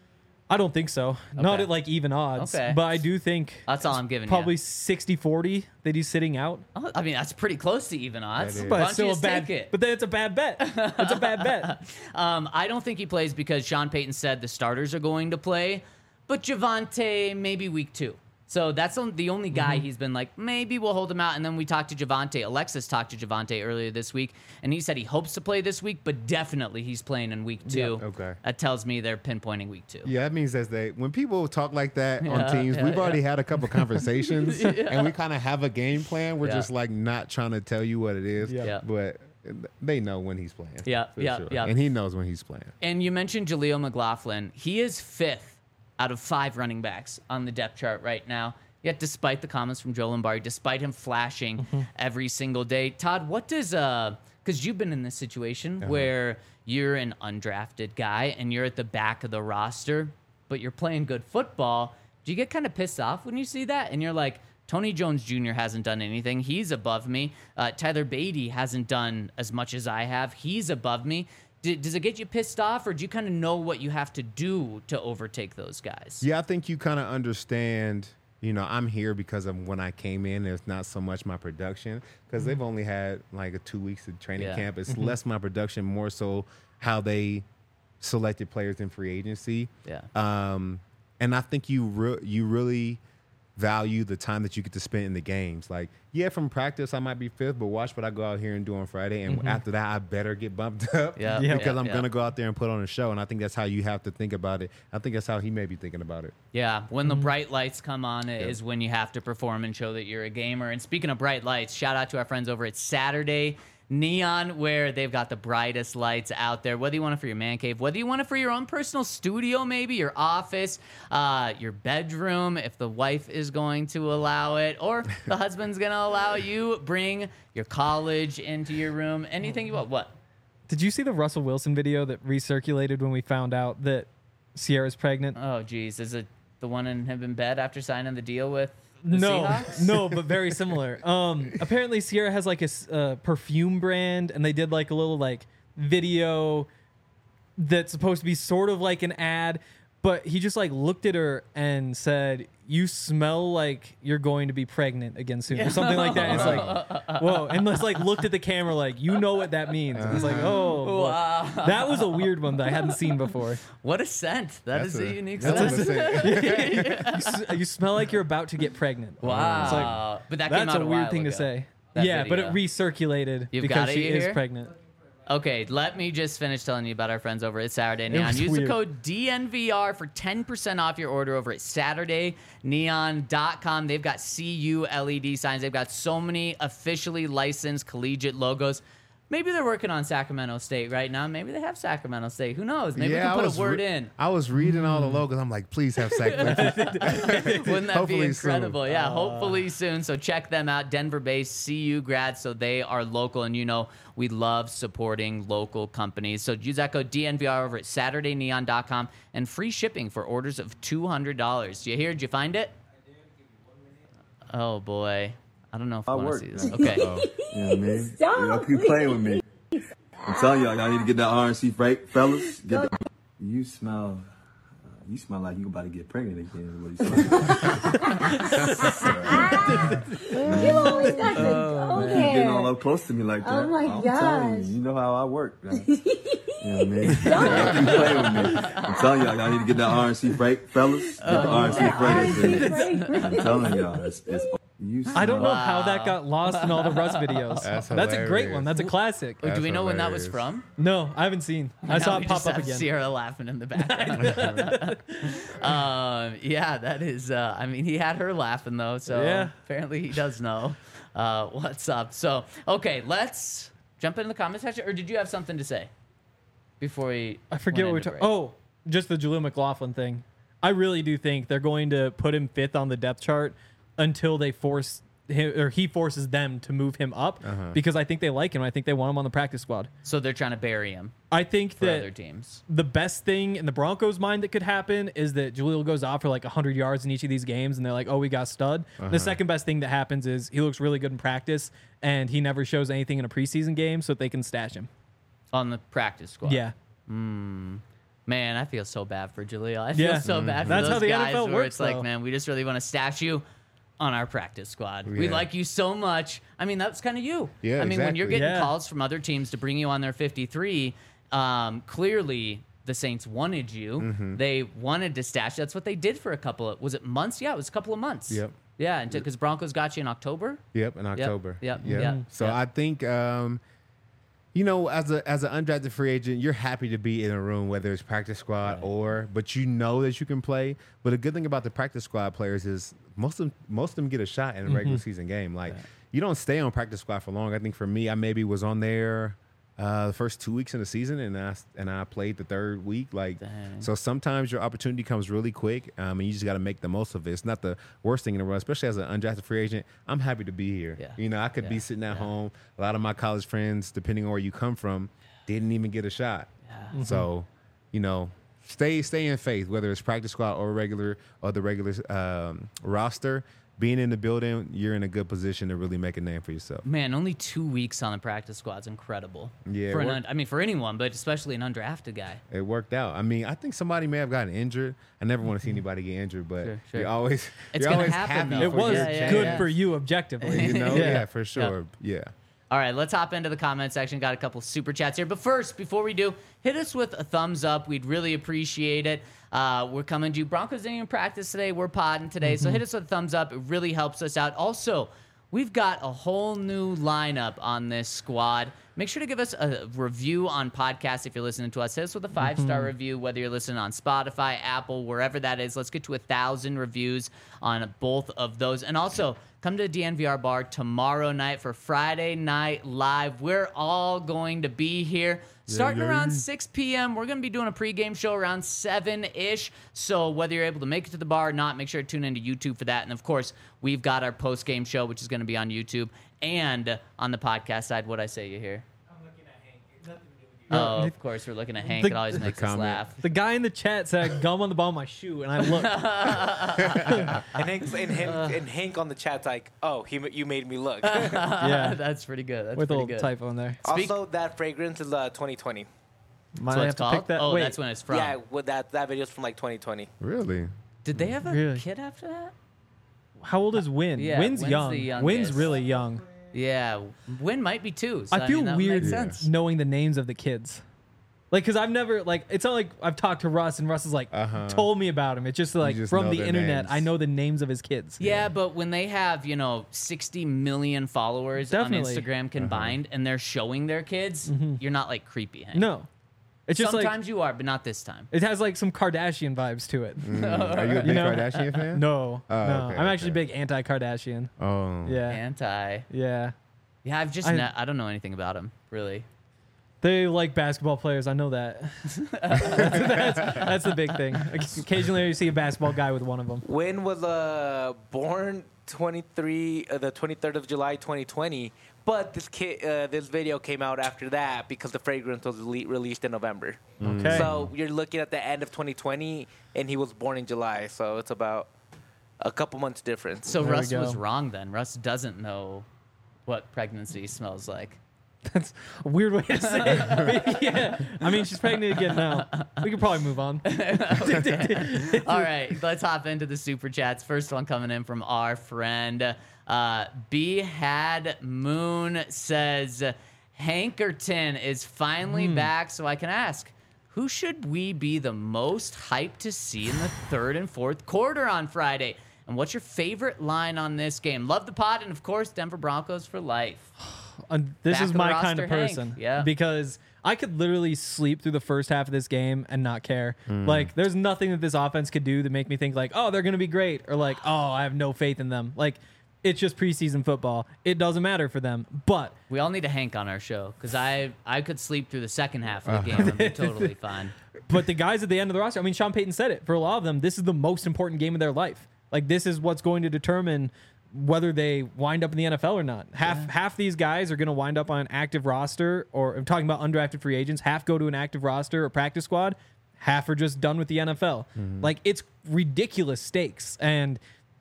[SPEAKER 3] I don't think so. Not
[SPEAKER 2] Okay.
[SPEAKER 3] at like even odds.
[SPEAKER 2] Okay.
[SPEAKER 3] But I do think
[SPEAKER 2] That's all I'm giving
[SPEAKER 3] probably
[SPEAKER 2] you.
[SPEAKER 3] sixty forty that he's sitting out.
[SPEAKER 2] Oh, I mean, that's pretty close to even odds.
[SPEAKER 4] That is.
[SPEAKER 3] But
[SPEAKER 2] Why
[SPEAKER 3] it's
[SPEAKER 2] don't you
[SPEAKER 3] still a
[SPEAKER 2] just
[SPEAKER 3] bad
[SPEAKER 2] take it?
[SPEAKER 3] But then it's a bad bet. It's a bad bet.
[SPEAKER 2] Um, I don't think he plays because Sean Payton said the starters are going to play, but Javonte maybe week two. So that's on- the only guy he's been like, maybe we'll hold him out. And then we talked to Javonte. Alexis talked to Javonte earlier this week, and he said he hopes to play this week, but definitely he's playing in week two.
[SPEAKER 4] Yeah, okay.
[SPEAKER 2] That tells me they're pinpointing week two.
[SPEAKER 4] Yeah, that means that they when people talk like that
[SPEAKER 2] Yeah,
[SPEAKER 4] on teams,
[SPEAKER 2] yeah,
[SPEAKER 4] we've
[SPEAKER 2] yeah.
[SPEAKER 4] already had a couple conversations and we kind of have a game plan. We're
[SPEAKER 2] Yeah.
[SPEAKER 4] just like not trying to tell you what it is,
[SPEAKER 3] Yeah.
[SPEAKER 2] Yeah.
[SPEAKER 4] but they know when he's playing.
[SPEAKER 2] Yeah,
[SPEAKER 4] for
[SPEAKER 2] yeah,
[SPEAKER 4] sure.
[SPEAKER 2] yeah.
[SPEAKER 4] And he knows when he's playing.
[SPEAKER 2] And you mentioned Jaleel McLaughlin. He is fifth out of five running backs on the depth chart right now. Yet, despite the comments from Joe Lombardi, despite him flashing every single day, Todd, what does uh? Because you've been in this situation where you're an undrafted guy and you're at the back of the roster, but you're playing good football. Do you get kind of pissed off when you see that? And you're like, Tony Jones Junior hasn't done anything. He's above me. Uh, Tyler Beatty hasn't done as much as I have. He's above me. D- does it get you pissed off, or do you kind of know what you have to do to overtake those guys?
[SPEAKER 4] Yeah, I think you kind of understand. You know, I'm here because of when I came in. It's not so much my production because they've only had like a two weeks of training
[SPEAKER 2] Yeah.
[SPEAKER 4] camp. It's less my production, more so how they selected players in free agency.
[SPEAKER 2] Yeah.
[SPEAKER 4] Um, and I think you re- you really value the time that you get to spend in the games. Like, yeah, from practice I might be fifth, but watch what I go out here and do on Friday. And after that, I better get bumped up
[SPEAKER 2] Yeah.
[SPEAKER 3] Yeah.
[SPEAKER 4] because
[SPEAKER 2] yeah,
[SPEAKER 4] I'm
[SPEAKER 2] yeah.
[SPEAKER 4] gonna go out there and put on a show. And I think that's how you have to think about it. I think that's how he may be thinking about it.
[SPEAKER 2] Yeah, when the bright lights come on is when you have to perform and show that you're a gamer. And speaking of bright lights, shout out to our friends over at Saturday Neon, where they've got the brightest lights out there. Whether you want it for your man cave, whether you want it for your own personal studio, maybe your office, uh, your bedroom, if the wife is going to allow it, or the husband's going to allow you, bring your college into your room. Anything you want. What?
[SPEAKER 3] Did you see the Russell Wilson video that recirculated when we found out that Sierra's pregnant?
[SPEAKER 2] Oh, geez. Is it the one in him in bed after signing the deal with the
[SPEAKER 3] No,
[SPEAKER 2] Seahawks?
[SPEAKER 3] no, but very similar. Um, apparently Sierra has like a s- uh, perfume brand, and they did like a little like video that's supposed to be sort of like an ad, but he just like looked at her and said, "You smell like you're going to be pregnant again soon," or something like that. And it's like, whoa, and just like looked at the camera like, you know what that means. And it's like, oh, boy.
[SPEAKER 2] Wow.
[SPEAKER 3] That was a weird one that I hadn't seen before.
[SPEAKER 2] What a scent. That
[SPEAKER 4] That's
[SPEAKER 2] is a, unique
[SPEAKER 4] that's
[SPEAKER 2] scent.
[SPEAKER 4] what I'm saying.
[SPEAKER 3] You, s- you smell like you're about to get pregnant.
[SPEAKER 2] Wow.
[SPEAKER 3] It's like,
[SPEAKER 2] but that came
[SPEAKER 3] That's
[SPEAKER 2] out
[SPEAKER 3] a
[SPEAKER 2] a
[SPEAKER 3] weird
[SPEAKER 2] while
[SPEAKER 3] thing to
[SPEAKER 2] ago.
[SPEAKER 3] say.
[SPEAKER 2] That
[SPEAKER 3] Yeah, but it
[SPEAKER 2] video.
[SPEAKER 3] recirculated
[SPEAKER 2] You've
[SPEAKER 3] because
[SPEAKER 2] got it,
[SPEAKER 3] she
[SPEAKER 2] you
[SPEAKER 3] is
[SPEAKER 2] hear?
[SPEAKER 3] pregnant.
[SPEAKER 2] Okay, let me just finish telling you about our friends over at Saturday Neon.
[SPEAKER 3] was
[SPEAKER 2] Use
[SPEAKER 3] weird.
[SPEAKER 2] the code D N V R for ten percent off your order over at Saturday Neon dot com. They've got C U L E D signs. They've got so many officially licensed collegiate logos. Maybe they're working on Sacramento State right now. Maybe they have Sacramento State. Who knows? Maybe
[SPEAKER 4] Yeah,
[SPEAKER 2] we
[SPEAKER 4] I
[SPEAKER 2] can put
[SPEAKER 4] was
[SPEAKER 2] a word
[SPEAKER 4] re-
[SPEAKER 2] in.
[SPEAKER 4] I was reading all the logos. I'm like, please have Sac.
[SPEAKER 2] Wouldn't that be
[SPEAKER 4] Hopefully soon.
[SPEAKER 2] incredible? Yeah, hopefully soon. So check them out. Denver-based C U grads, so they are local. And you know, we love supporting local companies. So use that code D N V R over at Saturday Neon dot com and free shipping for orders of two hundred dollars. You hear? Did you find it? Oh, boy. I don't know if
[SPEAKER 5] I
[SPEAKER 2] you want
[SPEAKER 5] work.
[SPEAKER 2] to see this. Okay.
[SPEAKER 5] You know what I mean? Y'all keep playing with me. I'm telling y'all, y'all need to get that R N C break, fellas. Get the, you smell, uh, you smell like you about to get pregnant again. What you
[SPEAKER 6] You always got to
[SPEAKER 5] oh,
[SPEAKER 6] go
[SPEAKER 5] man, you're getting all
[SPEAKER 6] there.
[SPEAKER 5] up close to me like that.
[SPEAKER 6] Oh my
[SPEAKER 5] I'm
[SPEAKER 6] gosh.
[SPEAKER 5] telling you, you know how I work. Man. You know what I mean? Y'all keep playing with me. I'm telling y'all, y'all need to get that R N C break, fellas. Get the R N C break. I'm telling y'all, it's, it's you
[SPEAKER 3] I don't know
[SPEAKER 2] Wow.
[SPEAKER 3] how that got lost in all the Russ videos.
[SPEAKER 4] That's
[SPEAKER 3] That's a great
[SPEAKER 4] hilarious.
[SPEAKER 3] one. That's a classic.
[SPEAKER 2] Wait, do
[SPEAKER 4] That's
[SPEAKER 2] we know when that was
[SPEAKER 4] hilarious.
[SPEAKER 2] from?
[SPEAKER 3] No, I haven't seen. I
[SPEAKER 2] Now
[SPEAKER 3] saw
[SPEAKER 2] we
[SPEAKER 3] it pop
[SPEAKER 2] just
[SPEAKER 3] up
[SPEAKER 2] have
[SPEAKER 3] again.
[SPEAKER 2] Sierra laughing in the background. um, yeah, that is. Uh, I mean, he had her laughing though, so
[SPEAKER 3] Yeah.
[SPEAKER 2] apparently he does know uh, what's up. So, okay, let's jump into the comment section. Or did you have something to say before we?
[SPEAKER 3] I forget what we're
[SPEAKER 2] went into
[SPEAKER 3] talking.
[SPEAKER 2] break?
[SPEAKER 3] Oh, just the Jaleel McLaughlin thing. I really do think they're going to put him fifth on the depth chart until they force him or he forces them to move him up
[SPEAKER 4] Uh-huh.
[SPEAKER 3] because I think they like him. I think they want him on the practice squad.
[SPEAKER 2] So they're trying to bury him
[SPEAKER 3] I think
[SPEAKER 2] for
[SPEAKER 3] that
[SPEAKER 2] other teams.
[SPEAKER 3] the best thing in the Broncos' mind that could happen is that Jaleel goes off for like one hundred yards in each of these games, and they're like, oh, we got stud.
[SPEAKER 4] Uh-huh.
[SPEAKER 3] The second best thing that happens is he looks really good in practice, and he never shows anything in a preseason game, so that they can stash him.
[SPEAKER 2] On the practice squad.
[SPEAKER 3] Yeah.
[SPEAKER 2] Man, I feel so bad for Jaleel. I feel
[SPEAKER 3] Yeah.
[SPEAKER 2] so bad for
[SPEAKER 3] That's
[SPEAKER 2] those
[SPEAKER 3] how the
[SPEAKER 2] guys
[SPEAKER 3] N F L
[SPEAKER 2] where
[SPEAKER 3] works,
[SPEAKER 2] it's like,
[SPEAKER 3] though.
[SPEAKER 2] man, we just really want to stash you on our practice squad. We
[SPEAKER 4] Yeah.
[SPEAKER 2] like you so much. I mean, that's kind of you.
[SPEAKER 4] Yeah,
[SPEAKER 2] I mean, when you're
[SPEAKER 4] exactly.
[SPEAKER 2] getting
[SPEAKER 3] Yeah.
[SPEAKER 2] calls from other teams to bring you on their fifty-three, um, clearly the Saints wanted you.
[SPEAKER 4] Mm-hmm.
[SPEAKER 2] They wanted to stash. That's what they did for a couple of, was it months? Yeah, it was a couple of months.
[SPEAKER 4] Yep.
[SPEAKER 2] Yeah, because Broncos got you in October.
[SPEAKER 4] Yep, in October.
[SPEAKER 2] yep,
[SPEAKER 4] Yep.
[SPEAKER 2] yep,
[SPEAKER 4] So
[SPEAKER 2] yep.
[SPEAKER 4] I think, um, you know, as a as an undrafted free agent, you're happy to be in a room, whether it's practice squad or, but you know that you can play. But the good thing about the practice squad players is most of them, most of them get a shot in a regular season game. Like you don't stay on practice squad for long. I think for me, I maybe was on there uh, the first two weeks in the season, and I and I played the third week. Like
[SPEAKER 2] Dang.
[SPEAKER 4] so, sometimes your opportunity comes really quick, um, and you just got to make the most of it. It's not the worst thing in the world, especially as an undrafted free agent. I'm happy to be here.
[SPEAKER 2] Yeah.
[SPEAKER 4] You know, I could
[SPEAKER 2] Yeah.
[SPEAKER 4] be sitting at
[SPEAKER 2] Yeah.
[SPEAKER 4] home. A lot of my college friends, depending on where you come from, didn't even get a shot.
[SPEAKER 2] Yeah.
[SPEAKER 4] So, you know, stay stay in faith, whether it's practice squad or regular or the regular um, roster. Being in the building, you're in a good position to really make a name for yourself.
[SPEAKER 2] Man, only two weeks on the practice squad's incredible.
[SPEAKER 4] Yeah,
[SPEAKER 2] For an
[SPEAKER 4] we're-
[SPEAKER 2] un- I mean, for anyone, but especially an undrafted guy.
[SPEAKER 4] It worked out. I mean, I think somebody may have gotten injured. I never want to see anybody get injured, but
[SPEAKER 2] Sure, sure.
[SPEAKER 4] you're always
[SPEAKER 2] It's
[SPEAKER 4] you're
[SPEAKER 2] gonna
[SPEAKER 4] always
[SPEAKER 2] happen,
[SPEAKER 4] happy.
[SPEAKER 2] though.
[SPEAKER 3] It
[SPEAKER 4] for
[SPEAKER 3] was
[SPEAKER 4] your
[SPEAKER 2] Yeah, yeah,
[SPEAKER 3] good
[SPEAKER 2] yeah.
[SPEAKER 3] for you objectively.
[SPEAKER 4] You know, yeah,
[SPEAKER 3] Yeah.
[SPEAKER 4] for sure. Yeah.
[SPEAKER 2] All right, let's hop into the comment section. Got a couple super chats here. But first, before we do, hit us with a thumbs up. We'd really appreciate it. Uh, we're coming to you. Broncos didn't even practice today. We're podding today. So hit us with a thumbs up. It really helps us out. Also, we've got a whole new lineup on this squad. Make sure to give us a review on podcasts if you're listening to us. Hit us with a five-star review, whether you're listening on Spotify, Apple, wherever that is. Let's get to a thousand reviews on both of those. And also, come to the D N V R bar tomorrow night for Friday Night Live. We're all going to be here. Starting
[SPEAKER 4] yeah,
[SPEAKER 2] around
[SPEAKER 4] yeah.
[SPEAKER 2] six p.m., we're going to be doing a pregame show around seven-ish. So whether you're able to make it to the bar or not, make sure to tune into YouTube for that. And, of course, we've got our postgame show, which is going to be on YouTube. And on the podcast side, what'd I say you hear?
[SPEAKER 3] I'm looking at Hank. Nothing to do with you.
[SPEAKER 2] Oh,
[SPEAKER 3] The-
[SPEAKER 2] of course, we're looking at Hank.
[SPEAKER 3] the-
[SPEAKER 2] It always
[SPEAKER 3] the
[SPEAKER 2] makes us
[SPEAKER 4] comment.
[SPEAKER 2] laugh.
[SPEAKER 3] The guy in the chat said gum on the bottom of my shoe, and I looked.
[SPEAKER 7] And Hank, and, him, and Hank on the chat's like, "Oh, he, ma- you made me look."
[SPEAKER 3] Yeah,
[SPEAKER 2] That's pretty good. That's
[SPEAKER 3] with a
[SPEAKER 2] pretty
[SPEAKER 3] little
[SPEAKER 2] good.
[SPEAKER 3] typo in there.
[SPEAKER 2] Speak-
[SPEAKER 7] Also, that fragrance is uh, twenty twenty.
[SPEAKER 3] Might
[SPEAKER 2] That's what
[SPEAKER 3] I
[SPEAKER 2] it's
[SPEAKER 3] have to
[SPEAKER 2] called?
[SPEAKER 3] pick that.
[SPEAKER 2] Oh,
[SPEAKER 3] Wait,
[SPEAKER 2] that's when it's from.
[SPEAKER 7] Yeah, with that that video's from like twenty twenty.
[SPEAKER 4] Really?
[SPEAKER 2] Did they have a
[SPEAKER 3] Really?
[SPEAKER 2] kid after that?
[SPEAKER 3] how old is Win?
[SPEAKER 2] Yeah,
[SPEAKER 3] Win's
[SPEAKER 2] Win's
[SPEAKER 3] young.
[SPEAKER 2] the youngest.
[SPEAKER 3] Win's really young.
[SPEAKER 2] Yeah, Win might be two. So,
[SPEAKER 3] I feel
[SPEAKER 2] mean, that would
[SPEAKER 3] weird
[SPEAKER 2] make sense.
[SPEAKER 3] knowing the names of the kids. Like, cause I've never like it's not like I've talked to Russ and Russ is like
[SPEAKER 4] Uh-huh.
[SPEAKER 3] told me about him. It's just like
[SPEAKER 4] just
[SPEAKER 3] from
[SPEAKER 4] know
[SPEAKER 3] the
[SPEAKER 4] their
[SPEAKER 3] internet,
[SPEAKER 4] names.
[SPEAKER 3] I know the names of his kids.
[SPEAKER 2] Yeah, but when they have, you know, sixty million followers
[SPEAKER 3] Definitely.
[SPEAKER 2] on Instagram combined and they're showing their kids, you're not like creepy, Hank.
[SPEAKER 3] No, it's just
[SPEAKER 2] Sometimes
[SPEAKER 3] like
[SPEAKER 2] you are, but not this time.
[SPEAKER 3] it has like some Kardashian vibes to it.
[SPEAKER 4] Mm. Are you a big
[SPEAKER 3] You know?
[SPEAKER 4] Kardashian fan?
[SPEAKER 3] No,
[SPEAKER 4] Oh,
[SPEAKER 3] no,
[SPEAKER 4] okay,
[SPEAKER 3] I'm actually
[SPEAKER 4] okay.
[SPEAKER 3] big anti-Kardashian.
[SPEAKER 4] Oh.
[SPEAKER 3] Yeah,
[SPEAKER 2] Anti.
[SPEAKER 3] yeah.
[SPEAKER 2] Yeah, I've just,
[SPEAKER 3] I-
[SPEAKER 2] ne- I don't know anything about him, really.
[SPEAKER 3] They like basketball players. I know that. that's, that's, that's the big thing. Occasionally, you see a basketball guy with one of them.
[SPEAKER 7] Win was uh, born twenty-three, uh, the twenty-third of July, twenty twenty. But this kid, uh, this video came out after that because the fragrance was le- released in November.
[SPEAKER 3] Okay.
[SPEAKER 7] So you're looking at the end of twenty twenty, and he was born in July. So it's about a couple months difference.
[SPEAKER 2] So
[SPEAKER 3] There we
[SPEAKER 2] Russ was
[SPEAKER 3] go.
[SPEAKER 2] wrong then. Russ doesn't know what pregnancy smells like.
[SPEAKER 3] That's a weird way to say it. Yeah. I mean, she's pregnant again now. We could probably move on.
[SPEAKER 2] All right, let's hop into the super chats. First one coming in from our friend uh, B Had Moon says Hankerton is finally back, so I can ask, who should we be the most hyped to see in the third and fourth quarter on Friday? And what's your favorite line on this game? Love the pod, and of course, Denver Broncos for life.
[SPEAKER 3] Uh, this
[SPEAKER 2] Back
[SPEAKER 3] is
[SPEAKER 2] of the
[SPEAKER 3] my
[SPEAKER 2] roster,
[SPEAKER 3] kind of
[SPEAKER 2] Hank.
[SPEAKER 3] person.
[SPEAKER 2] Yeah.
[SPEAKER 3] Because I could literally sleep through the first half of this game and not care. Like, there's nothing that this offense could do to make me think, like, oh, they're going to be great. Or, like, oh, I have no faith in them. Like, it's just preseason football. It doesn't matter for them. But
[SPEAKER 2] We all need a Hank on our show because I I could sleep through the second half of the game and be totally fine.
[SPEAKER 3] But the guys at the end of the roster, I mean, Sean Payton said it. For a lot of them, this is the most important game of their life. Like, this is what's going to determine whether they wind up in the N F L or not. Half yeah. half these guys are going to wind up on an active roster, or I'm talking about undrafted free agents. Half go to an active roster or practice squad. Half are just done with the N F L. Mm-hmm. Like, it's ridiculous stakes. And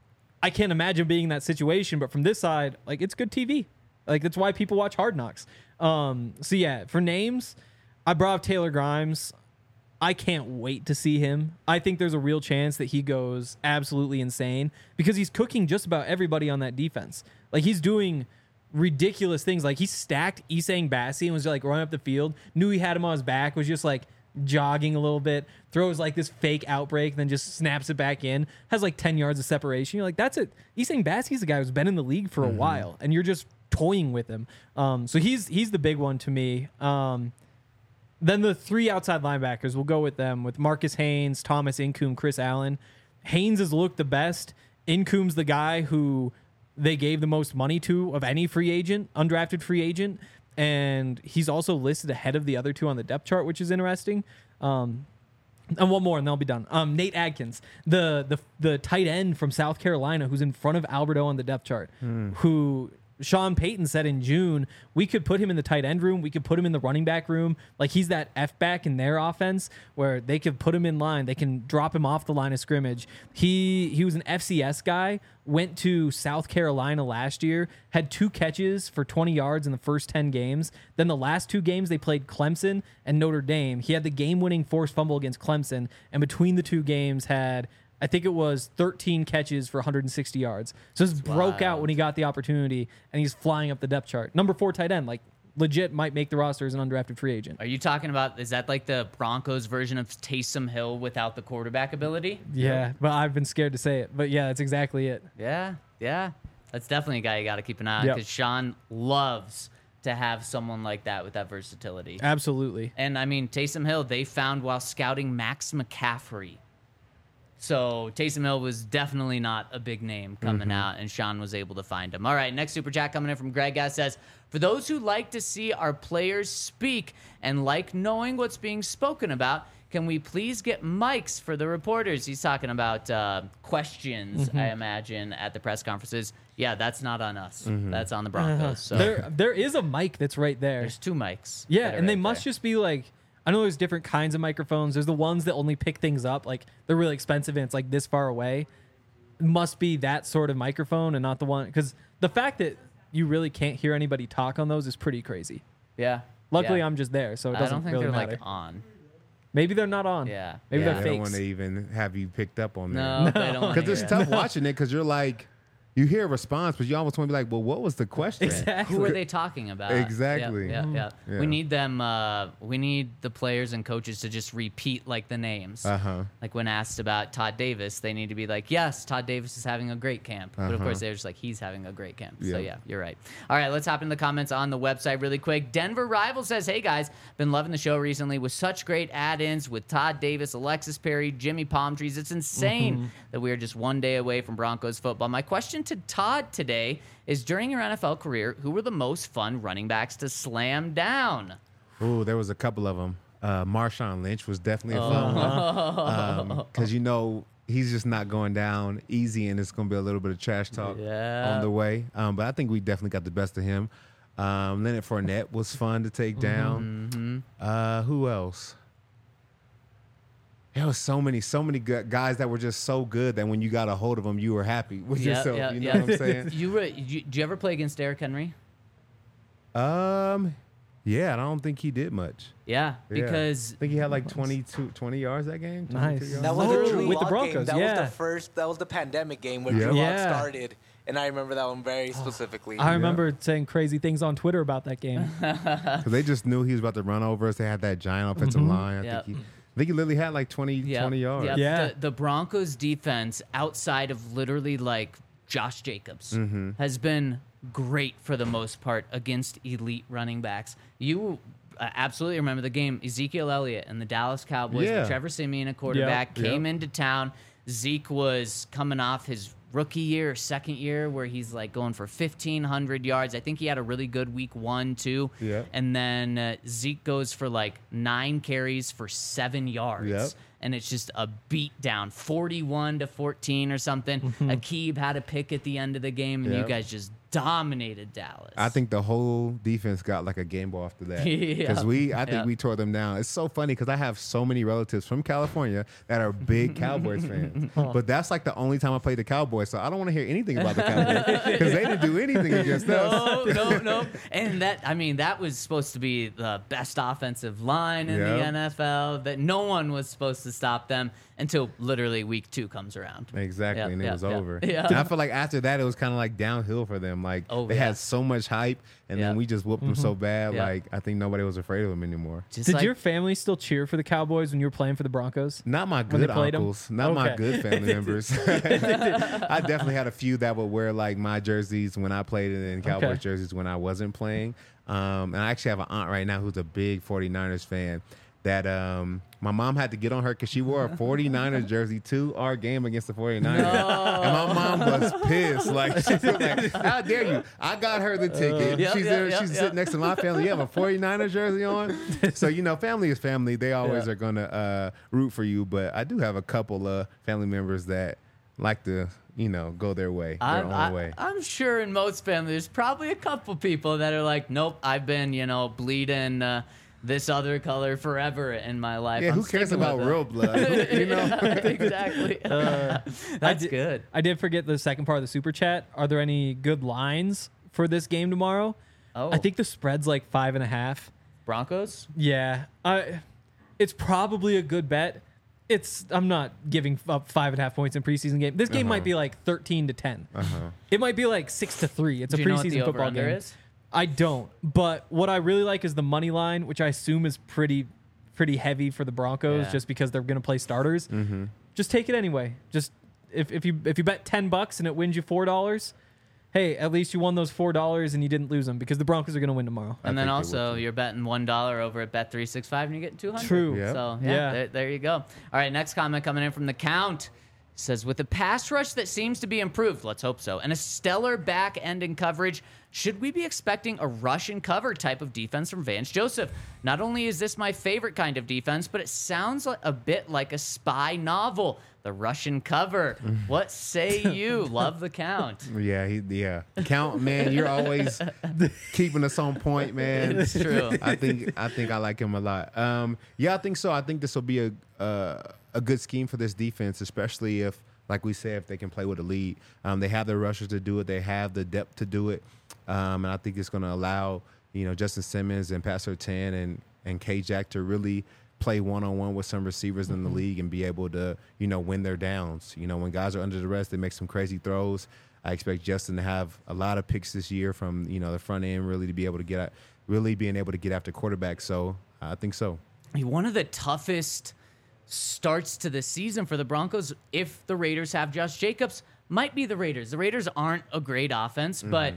[SPEAKER 3] I can't imagine being in that situation. But from this side, like, it's good T V. Like, that's why people watch Hard Knocks. Um, so, yeah, for names, I brought up Taylor Grimes. I can't wait to see him. I think there's a real chance that he goes absolutely insane because he's cooking just about everybody on that defense. Like, he's doing ridiculous things. Like, he stacked Isang Bassi and was like running up the field, knew he had him on his back, was just like jogging a little bit, throws like this fake outbreak, then just snaps it back in, has like ten yards of separation. You're like, that's it. Isang Bassi's a guy who's been in the league for a mm-hmm. while, and you're just toying with him. Um, so he's he's the big one to me. Um, Then the three outside linebackers, we'll go with them, with Marcus Haynes, Thomas Incoom, Chris Allen. Haynes has looked the best. Incoom's the guy who they gave the most money to of any free agent, undrafted free agent. And he's also listed ahead of the other two on the depth chart, which is interesting. Um, and one more, and they'll be done. Um, Nate Adkins, the, the the tight end from South Carolina, who's in front of Alberto on the depth chart, mm. who... Sean Payton said in June, we could put him in the tight end room. We could put him in the running back room. Like, he's that F-back in their offense where they could put him in line. They can drop him off the line of scrimmage. He he was an F C S guy, went to South Carolina last year, had two catches for twenty yards in the first ten games. Then the last two games, they played Clemson and Notre Dame. He had the game-winning forced fumble against Clemson, and between the two games had... I think it was thirteen catches for one hundred sixty yards. So this broke out when he got the opportunity, and he's flying up the depth chart. Number four tight end, like, legit might make the roster as an undrafted free agent.
[SPEAKER 2] Are you talking about, is that like the Broncos version of Taysom Hill without the quarterback ability?
[SPEAKER 3] Yeah, but I've been scared to say it. But yeah, that's exactly it.
[SPEAKER 2] Yeah, yeah. That's definitely a guy you got to keep an eye on because yep. Sean loves to have someone like that with that versatility.
[SPEAKER 3] Absolutely.
[SPEAKER 2] And I mean, Taysom Hill, they found while scouting Max McCaffrey. So Taysom Hill was definitely not a big name coming mm-hmm. out, and Sean was able to find him. All right, next super chat coming in from Greg Gass says, for those who like to see our players speak and like knowing what's being spoken about, can we please get mics for the reporters? He's talking about uh, questions, mm-hmm. I imagine, at the press conferences. Yeah, that's not on us. Mm-hmm. That's on the Broncos. Uh-huh. So
[SPEAKER 3] there, there is a mic that's right there.
[SPEAKER 2] There's two mics.
[SPEAKER 3] Yeah, and
[SPEAKER 2] right
[SPEAKER 3] they must
[SPEAKER 2] there.
[SPEAKER 3] just be like, I know there's different kinds of microphones. There's the ones that only pick things up. Like, they're really expensive and it's like this far away. It must be that sort of microphone and not the one. Because the fact that you really can't hear anybody talk on those is pretty crazy.
[SPEAKER 2] Yeah.
[SPEAKER 3] Luckily,
[SPEAKER 2] yeah.
[SPEAKER 3] I'm just there, so it doesn't
[SPEAKER 2] I don't think
[SPEAKER 3] really
[SPEAKER 2] they're
[SPEAKER 3] matter.
[SPEAKER 2] like on.
[SPEAKER 3] Maybe they're not on.
[SPEAKER 2] Yeah.
[SPEAKER 3] Maybe
[SPEAKER 2] yeah.
[SPEAKER 3] they're
[SPEAKER 4] They
[SPEAKER 3] fakes.
[SPEAKER 4] don't want to even have you picked up on there.
[SPEAKER 2] No, no. they don't.
[SPEAKER 4] Because it's tough watching it because you're like, you hear a response, but you almost want to be like, well, what was the question?
[SPEAKER 3] Exactly.
[SPEAKER 2] Who are they talking about?
[SPEAKER 4] Exactly.
[SPEAKER 2] Yeah, yeah, yeah.
[SPEAKER 4] Yeah.
[SPEAKER 2] We need them. Uh, we need the players and coaches to just repeat like the names.
[SPEAKER 4] Uh-huh.
[SPEAKER 2] Like when asked about Todd Davis, they need to be like, "Yes, Todd Davis is having a great camp." But of
[SPEAKER 4] Uh-huh.
[SPEAKER 2] course, they're just like, "He's having a great camp."
[SPEAKER 4] Yeah.
[SPEAKER 2] So yeah, you're right. All right, let's hop into the comments on the website really quick. Denver Rival says, "Hey guys, been loving the show recently with such great add-ins with Todd Davis, Alexis Perry, Jimmy Palmtrees. It's insane mm-hmm. that we are just one day away from Broncos football." My question to Todd today is, during your N F L career, who were the most fun running backs to slam down?
[SPEAKER 4] Ooh, there was a couple of them. Uh, Marshawn Lynch was definitely a fun one. Because, um, you know, he's just not going down easy, and it's going to be a little bit of trash talk
[SPEAKER 2] yeah.
[SPEAKER 4] on the way. Um, but I think we definitely got the best of him. Um, Leonard Fournette was fun to take down.
[SPEAKER 2] Mm-hmm.
[SPEAKER 4] Uh, who else? It there was so many, so many good guys that were just so good that when you got a hold of them, you were happy with
[SPEAKER 2] Yeah,
[SPEAKER 4] yourself.
[SPEAKER 2] yeah,
[SPEAKER 4] you know
[SPEAKER 2] yeah.
[SPEAKER 4] what I'm saying?
[SPEAKER 2] You, were, you did you ever play against Derrick Henry?
[SPEAKER 4] Um, yeah, I don't think he did much.
[SPEAKER 2] Yeah,
[SPEAKER 4] Yeah.
[SPEAKER 2] because
[SPEAKER 4] I think he had like twenty-two, twenty yards that game.
[SPEAKER 3] Nice.
[SPEAKER 4] twenty-two yards.
[SPEAKER 7] That was
[SPEAKER 3] Oh,
[SPEAKER 7] the Drew
[SPEAKER 3] with the
[SPEAKER 7] Lock
[SPEAKER 3] Broncos,
[SPEAKER 7] game. That
[SPEAKER 3] yeah.
[SPEAKER 7] was the first. That was the pandemic game where
[SPEAKER 4] Yeah.
[SPEAKER 7] Drew Lock
[SPEAKER 3] Yeah.
[SPEAKER 7] started, and I remember that one very specifically.
[SPEAKER 3] I remember saying crazy things on Twitter about that game.
[SPEAKER 4] Because they just knew he was about to run over us. They had that giant offensive line. I,
[SPEAKER 2] Yep.
[SPEAKER 4] think he, I think he literally had like twenty,
[SPEAKER 2] Yep,
[SPEAKER 4] twenty yards.
[SPEAKER 2] yep.
[SPEAKER 3] Yeah.
[SPEAKER 2] The, the Broncos defense, outside of literally like Josh Jacobs,
[SPEAKER 4] Mm-hmm.
[SPEAKER 2] has been great for the most part against elite running backs. You uh, absolutely remember the game. Ezekiel Elliott and the Dallas Cowboys,
[SPEAKER 4] Yeah.
[SPEAKER 2] with Trevor Siemian at quarterback,
[SPEAKER 4] Yep.
[SPEAKER 2] came into town. Zeke was coming off his rookie year, second year, where he's like going for fifteen hundred yards. I think he had a really good week one, too.
[SPEAKER 4] Yep.
[SPEAKER 2] And then uh, Zeke goes for like nine carries for seven yards.
[SPEAKER 4] Yep.
[SPEAKER 2] And it's just a beat down, forty-one to fourteen or something. Akib had a pick at the end of the game, and you
[SPEAKER 4] Yep.
[SPEAKER 2] guys just dominated Dallas.
[SPEAKER 4] I think the whole defense got like a game ball after that.
[SPEAKER 2] Yeah.
[SPEAKER 4] Because we, I think
[SPEAKER 2] Yeah.
[SPEAKER 4] we tore them down. It's so funny because I have so many relatives from California that are big Cowboys fans. But that's like the only time I played the Cowboys, so I don't want to hear anything about the Cowboys because they didn't do anything against us.
[SPEAKER 2] no, no, no. And that, I mean, that was supposed to be the best offensive line in the
[SPEAKER 4] Yep.
[SPEAKER 2] N F L. That no one was supposed to stop them until literally week two comes around.
[SPEAKER 4] Exactly,
[SPEAKER 2] Yep,
[SPEAKER 4] and it
[SPEAKER 2] yep,
[SPEAKER 4] was
[SPEAKER 2] yep.
[SPEAKER 4] over.
[SPEAKER 2] Yeah.
[SPEAKER 4] And I feel like after that, it was kind of like downhill for them. Like
[SPEAKER 2] Oh,
[SPEAKER 4] they
[SPEAKER 2] yeah.
[SPEAKER 4] had so much hype, and
[SPEAKER 2] Yep.
[SPEAKER 4] then we just whooped them so bad.
[SPEAKER 2] Yep.
[SPEAKER 4] Like I think nobody was afraid of them anymore.
[SPEAKER 2] Just
[SPEAKER 3] Did
[SPEAKER 2] like-
[SPEAKER 3] your family still cheer for the Cowboys when you were playing for the Broncos?
[SPEAKER 4] Not my
[SPEAKER 3] When they
[SPEAKER 4] good
[SPEAKER 3] played 'em?
[SPEAKER 4] uncles, not my
[SPEAKER 3] Okay.
[SPEAKER 4] good family members. I definitely had a few that would wear like my jerseys when I played and then Cowboys
[SPEAKER 3] Okay.
[SPEAKER 4] jerseys when I wasn't playing. Um, and I actually have an aunt right now who's a big forty-niners fan. That um, my mom had to get on her because she wore a forty-niners jersey to our game against the forty-niners. And my mom was pissed. Like, she was like, how dare you? I got her the ticket.
[SPEAKER 2] Yep,
[SPEAKER 4] she's
[SPEAKER 2] yep,
[SPEAKER 4] there.
[SPEAKER 2] yep,
[SPEAKER 4] she's
[SPEAKER 2] yep.
[SPEAKER 4] sitting next to my family. You have a forty-niners jersey on? So, you know, family is family. They always
[SPEAKER 3] Yeah.
[SPEAKER 4] are going to uh, root for you. But I do have a couple of family members that like to, you know, go their way, their
[SPEAKER 2] I'm,
[SPEAKER 4] own
[SPEAKER 2] I,
[SPEAKER 4] way.
[SPEAKER 2] I'm sure in most families, there's probably a couple people that are like, nope, I've been, you know, bleeding uh, this other color forever in my life.
[SPEAKER 4] Yeah,
[SPEAKER 2] I'm
[SPEAKER 4] who cares
[SPEAKER 2] sticking
[SPEAKER 4] about
[SPEAKER 2] with it."
[SPEAKER 4] real blood? You know?
[SPEAKER 2] Exactly. That's
[SPEAKER 3] did-
[SPEAKER 2] good.
[SPEAKER 3] I did forget the second part of the super chat. Are there any good lines for this game tomorrow?
[SPEAKER 2] Oh,
[SPEAKER 3] I think the spread's like five and a half.
[SPEAKER 2] Broncos.
[SPEAKER 3] Yeah, I, it's probably a good bet. It's I'm not giving up five and a half points in preseason game. This game
[SPEAKER 4] Uh-huh.
[SPEAKER 3] might be like thirteen to ten.
[SPEAKER 4] Uh-huh.
[SPEAKER 3] It might be like six to three. It's
[SPEAKER 2] Do
[SPEAKER 3] a
[SPEAKER 2] you know what
[SPEAKER 3] preseason
[SPEAKER 2] the
[SPEAKER 3] football
[SPEAKER 2] over-under
[SPEAKER 3] game.
[SPEAKER 2] is?
[SPEAKER 3] I don't. But what I really like is the money line, which I assume is pretty pretty heavy for the Broncos,
[SPEAKER 2] Yeah.
[SPEAKER 3] just because they're going to play starters. Just take it anyway. Just if, if you if you bet ten bucks and it wins you four dollars, hey, at least you won those four dollars and you didn't lose them because the Broncos are going to win tomorrow.
[SPEAKER 2] And then
[SPEAKER 4] think they
[SPEAKER 2] also,
[SPEAKER 4] will, too.
[SPEAKER 2] you're betting one dollar over at Bet three sixty-five, and you're getting two hundred.
[SPEAKER 3] True.
[SPEAKER 4] Yep.
[SPEAKER 2] So yeah,
[SPEAKER 3] Yeah.
[SPEAKER 2] There, there you go. All right, next comment coming in from the Count says, with a pass rush that seems to be improved, let's hope so, and a stellar back end in coverage, should we be expecting a rush and cover type of defense from Vance Joseph? Not only is this my favorite kind of defense, but it sounds like a bit like a spy novel. The Russian cover. What say you? Love the Count.
[SPEAKER 4] Yeah, he, yeah. Count, man, you're always keeping us on point, man.
[SPEAKER 2] It's true.
[SPEAKER 4] I think I think I like him a lot. Um, yeah, I think so. I think this will be a uh, a good scheme for this defense, especially if, like we said, if they can play with a lead. Um, they have the rushers to do it. They have the depth to do it, um, and I think it's going to allow you know Justin Simmons and Pat Surtain and and K Jack to really play one-on-one with some receivers in the league and be able to, you know, win their downs. You know, when guys are under the rest, they make some crazy throws. I expect Justin to have a lot of picks this year from, you know, the front end, really to be able to get, really being able to get after quarterbacks. So I think so.
[SPEAKER 2] One of the toughest starts to the season for the Broncos, if the Raiders have Josh Jacobs, might be the Raiders. The Raiders aren't a great offense, but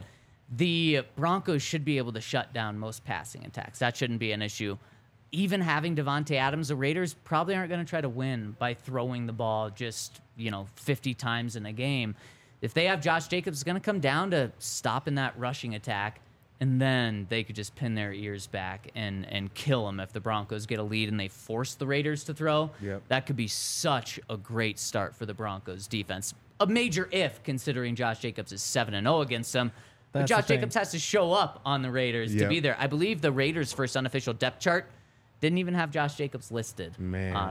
[SPEAKER 2] the Broncos should be able to shut down most passing attacks. That shouldn't be an issue. Even having Devontae Adams, the Raiders probably aren't going to try to win by throwing the ball just, you know, fifty times in a game. If they have Josh Jacobs, it's going to come down to stopping that rushing attack, and then they could just pin their ears back and, and kill them if the Broncos get a lead and they force the Raiders to throw.
[SPEAKER 4] Yep.
[SPEAKER 2] That could be such a great start for the Broncos defense. A major if, considering Josh Jacobs is seven and oh against them. But
[SPEAKER 3] That's the
[SPEAKER 2] Josh
[SPEAKER 3] thing.
[SPEAKER 2] Jacobs has to show up on the Raiders to
[SPEAKER 4] Yep.
[SPEAKER 2] be there. I believe the Raiders' first unofficial depth chart didn't even have Josh Jacobs listed
[SPEAKER 4] Man.
[SPEAKER 2] on it.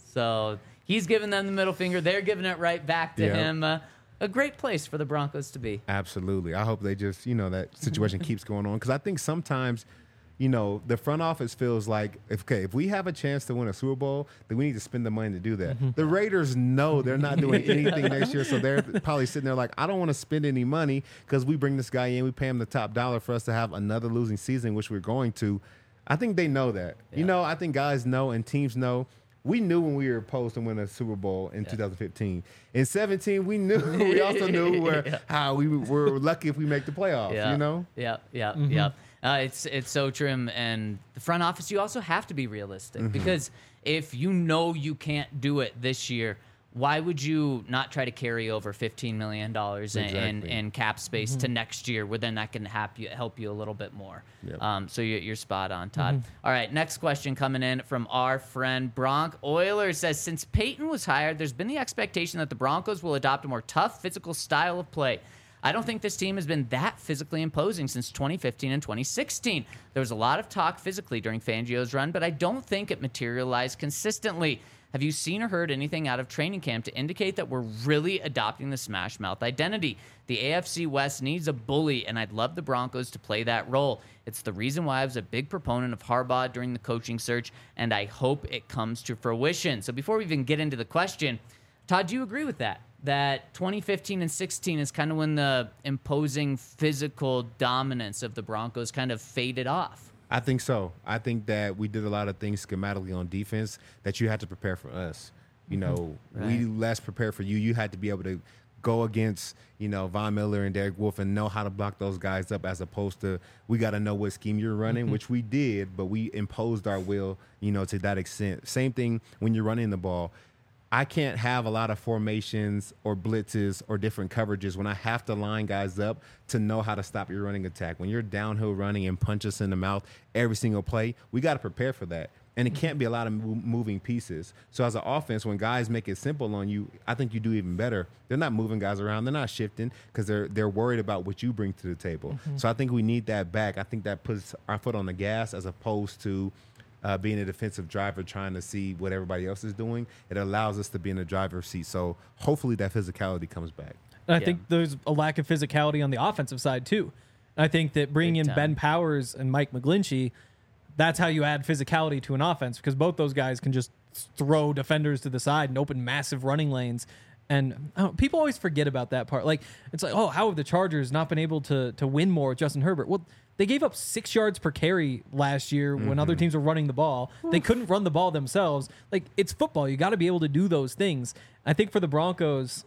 [SPEAKER 2] So he's giving them the middle finger. They're giving it right back to
[SPEAKER 4] Yeah.
[SPEAKER 2] him. Uh, a great place for the Broncos to be.
[SPEAKER 4] Absolutely. I hope they just, you know, that situation keeps going on. Because I think sometimes, you know, the front office feels like, if, okay, if we have a chance to win a Super Bowl, then we need to spend the money to do that. The Raiders know they're not doing anything next year, so they're probably sitting there like, I don't want to spend any money because we bring this guy in, we pay him the top dollar for us to have another losing season, which we're going to. I think they know that. You know, I think guys know and teams know. We knew when we were supposed to win a Super Bowl in yeah. two thousand fifteen. In seventeen, we knew. We also knew where, yeah. how we were lucky if we make the playoffs,
[SPEAKER 2] yeah.
[SPEAKER 4] you know?
[SPEAKER 2] Yeah, yeah,
[SPEAKER 3] Mm-hmm.
[SPEAKER 2] yeah. Uh, it's it's so true. And the front office, you also have to be realistic
[SPEAKER 4] Mm-hmm.
[SPEAKER 2] because if you know you can't do it this year, why would you not try to carry over fifteen million dollars in,
[SPEAKER 4] Exactly.
[SPEAKER 2] in, in cap space
[SPEAKER 3] Mm-hmm.
[SPEAKER 2] to next year where then that can help you, help you a little bit more?
[SPEAKER 4] Yep.
[SPEAKER 2] Um, so you're, you're spot on, Todd.
[SPEAKER 3] Mm-hmm.
[SPEAKER 2] All right, next question coming in from our friend Bronc Euler says, since Peyton was hired, there's been the expectation that the Broncos will adopt a more tough physical style of play. I don't think this team has been that physically imposing since twenty fifteen and twenty sixteen. There was a lot of talk physically during Fangio's run, but I don't think it materialized consistently. Have you seen or heard anything out of training camp to indicate that we're really adopting the Smash Mouth identity? The A F C West needs a bully, and I'd love the Broncos to play that role. It's the reason why I was a big proponent of Harbaugh during the coaching search, and I hope it comes to fruition. So before we even get into the question, Todd, do you agree with that? That twenty fifteen and sixteen is kind of when the imposing physical dominance of the Broncos kind of faded off?
[SPEAKER 4] I think so. I think that we did a lot of things schematically on defense that you had to prepare for us. You know,
[SPEAKER 2] Right.
[SPEAKER 4] we less prepared for you. You had to be able to go against, you know, Von Miller and Derek Wolfe and know how to block those guys up, as opposed to we got to know what scheme you're running,
[SPEAKER 2] Mm-hmm.
[SPEAKER 4] which we did, but we imposed our will, you know, to that extent. Same thing when you're running the ball. I can't have a lot of formations or blitzes or different coverages when I have to line guys up to know how to stop your running attack. When you're downhill running and punch us in the mouth every single play, we got to prepare for that. And it can't be a lot of mo- moving pieces. So as an offense, when guys make it simple on you, I think you do even better. They're not moving guys around. They're not shifting because they're they're worried about what you bring to the table. So I think we need that back. I think that puts our foot on the gas as opposed to Uh, being a defensive driver, trying to see what everybody else is doing. It allows us to be in the driver's seat. So hopefully that physicality comes back.
[SPEAKER 3] And I
[SPEAKER 2] Yeah.
[SPEAKER 3] think there's a lack of physicality on the offensive side, too. I think that bringing
[SPEAKER 2] Big
[SPEAKER 3] in
[SPEAKER 2] time.
[SPEAKER 3] Ben Powers and Mike McGlinchey, that's how you add physicality to an offense, because both those guys can just throw defenders to the side and open massive running lanes. And I don't- people always forget about that part. Like, it's like, oh, how have the Chargers not been able to to win more with Justin Herbert? Well, they gave up six yards per carry last year when other teams were running the ball. They couldn't run the ball themselves. Like, it's football. You got to be able to do those things. I think for the Broncos,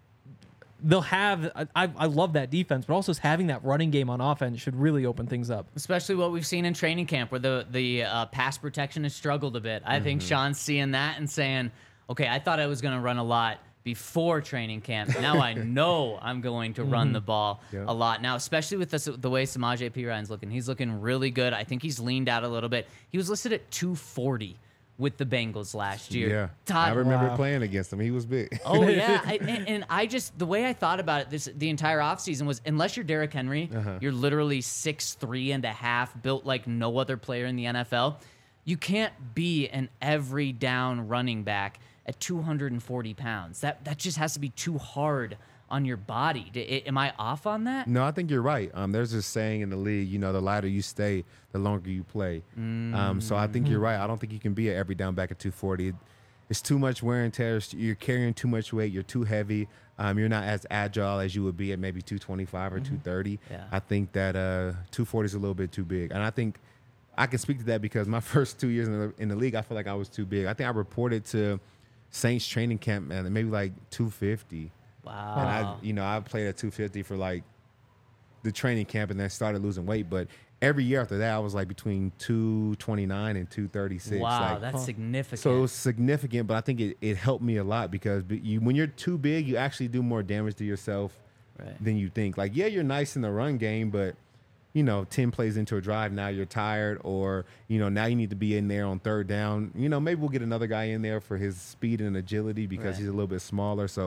[SPEAKER 3] they'll have, I, I love that defense, but also having that running game on offense should really open things up.
[SPEAKER 2] Especially what we've seen in training camp where the, the uh, pass protection has struggled a bit. I think Sean's seeing that and saying, okay, I thought I was going to run a lot before training camp. Now I know I'm going to run the ball
[SPEAKER 4] Yeah.
[SPEAKER 2] a lot now, especially with this, the way Samaje Perine looking. He's looking really good. I think he's leaned out a little bit. He was listed at two forty with the Bengals last year.
[SPEAKER 4] Yeah.
[SPEAKER 2] Todd,
[SPEAKER 4] I remember
[SPEAKER 3] Wow.
[SPEAKER 4] playing against him. He was big.
[SPEAKER 2] Oh yeah, I, and, and I just the way I thought about it this the entire offseason was unless you're Derrick Henry,
[SPEAKER 4] Uh-huh.
[SPEAKER 2] you're literally six three and a half, built like no other player in the N F L. You can't be an every down running back at two hundred forty pounds. That that just has to be too hard on your body. D- I- am I off on that?
[SPEAKER 4] No, I think you're right. Um, there's this saying in the league, you know, the lighter you stay, the longer you play. Um, so I think you're right. I don't think you can be an every down back at two forty. It's too much wear and tear. You're carrying too much weight. You're too heavy. Um, you're not as agile as you would be at maybe two twenty-five or two thirty.
[SPEAKER 2] Yeah.
[SPEAKER 4] I think that uh, two forty is a little bit too big. And I think I can speak to that because my first two years in the, in the league, I feel like I was too big. I think I reported to Saints training camp, man, maybe like two fifty.
[SPEAKER 2] Wow.
[SPEAKER 4] And I, you know, I played at two fifty for like the training camp and then started losing weight. But every year after that, I was like between two twenty-nine and two thirty-six.
[SPEAKER 2] wow,
[SPEAKER 4] like,
[SPEAKER 2] that's significant.
[SPEAKER 4] so it was significant, but I think it, it helped me a lot because b- you, when you're too big, you actually do more damage to yourself
[SPEAKER 2] Right.
[SPEAKER 4] than you think. Like, yeah, you're nice in the run game, but you know, ten plays into a drive, now you're tired, or you know, now you need to be in there on third down. You know, maybe we'll get another guy in there for his speed and agility because
[SPEAKER 2] Right.
[SPEAKER 4] he's a little bit smaller. So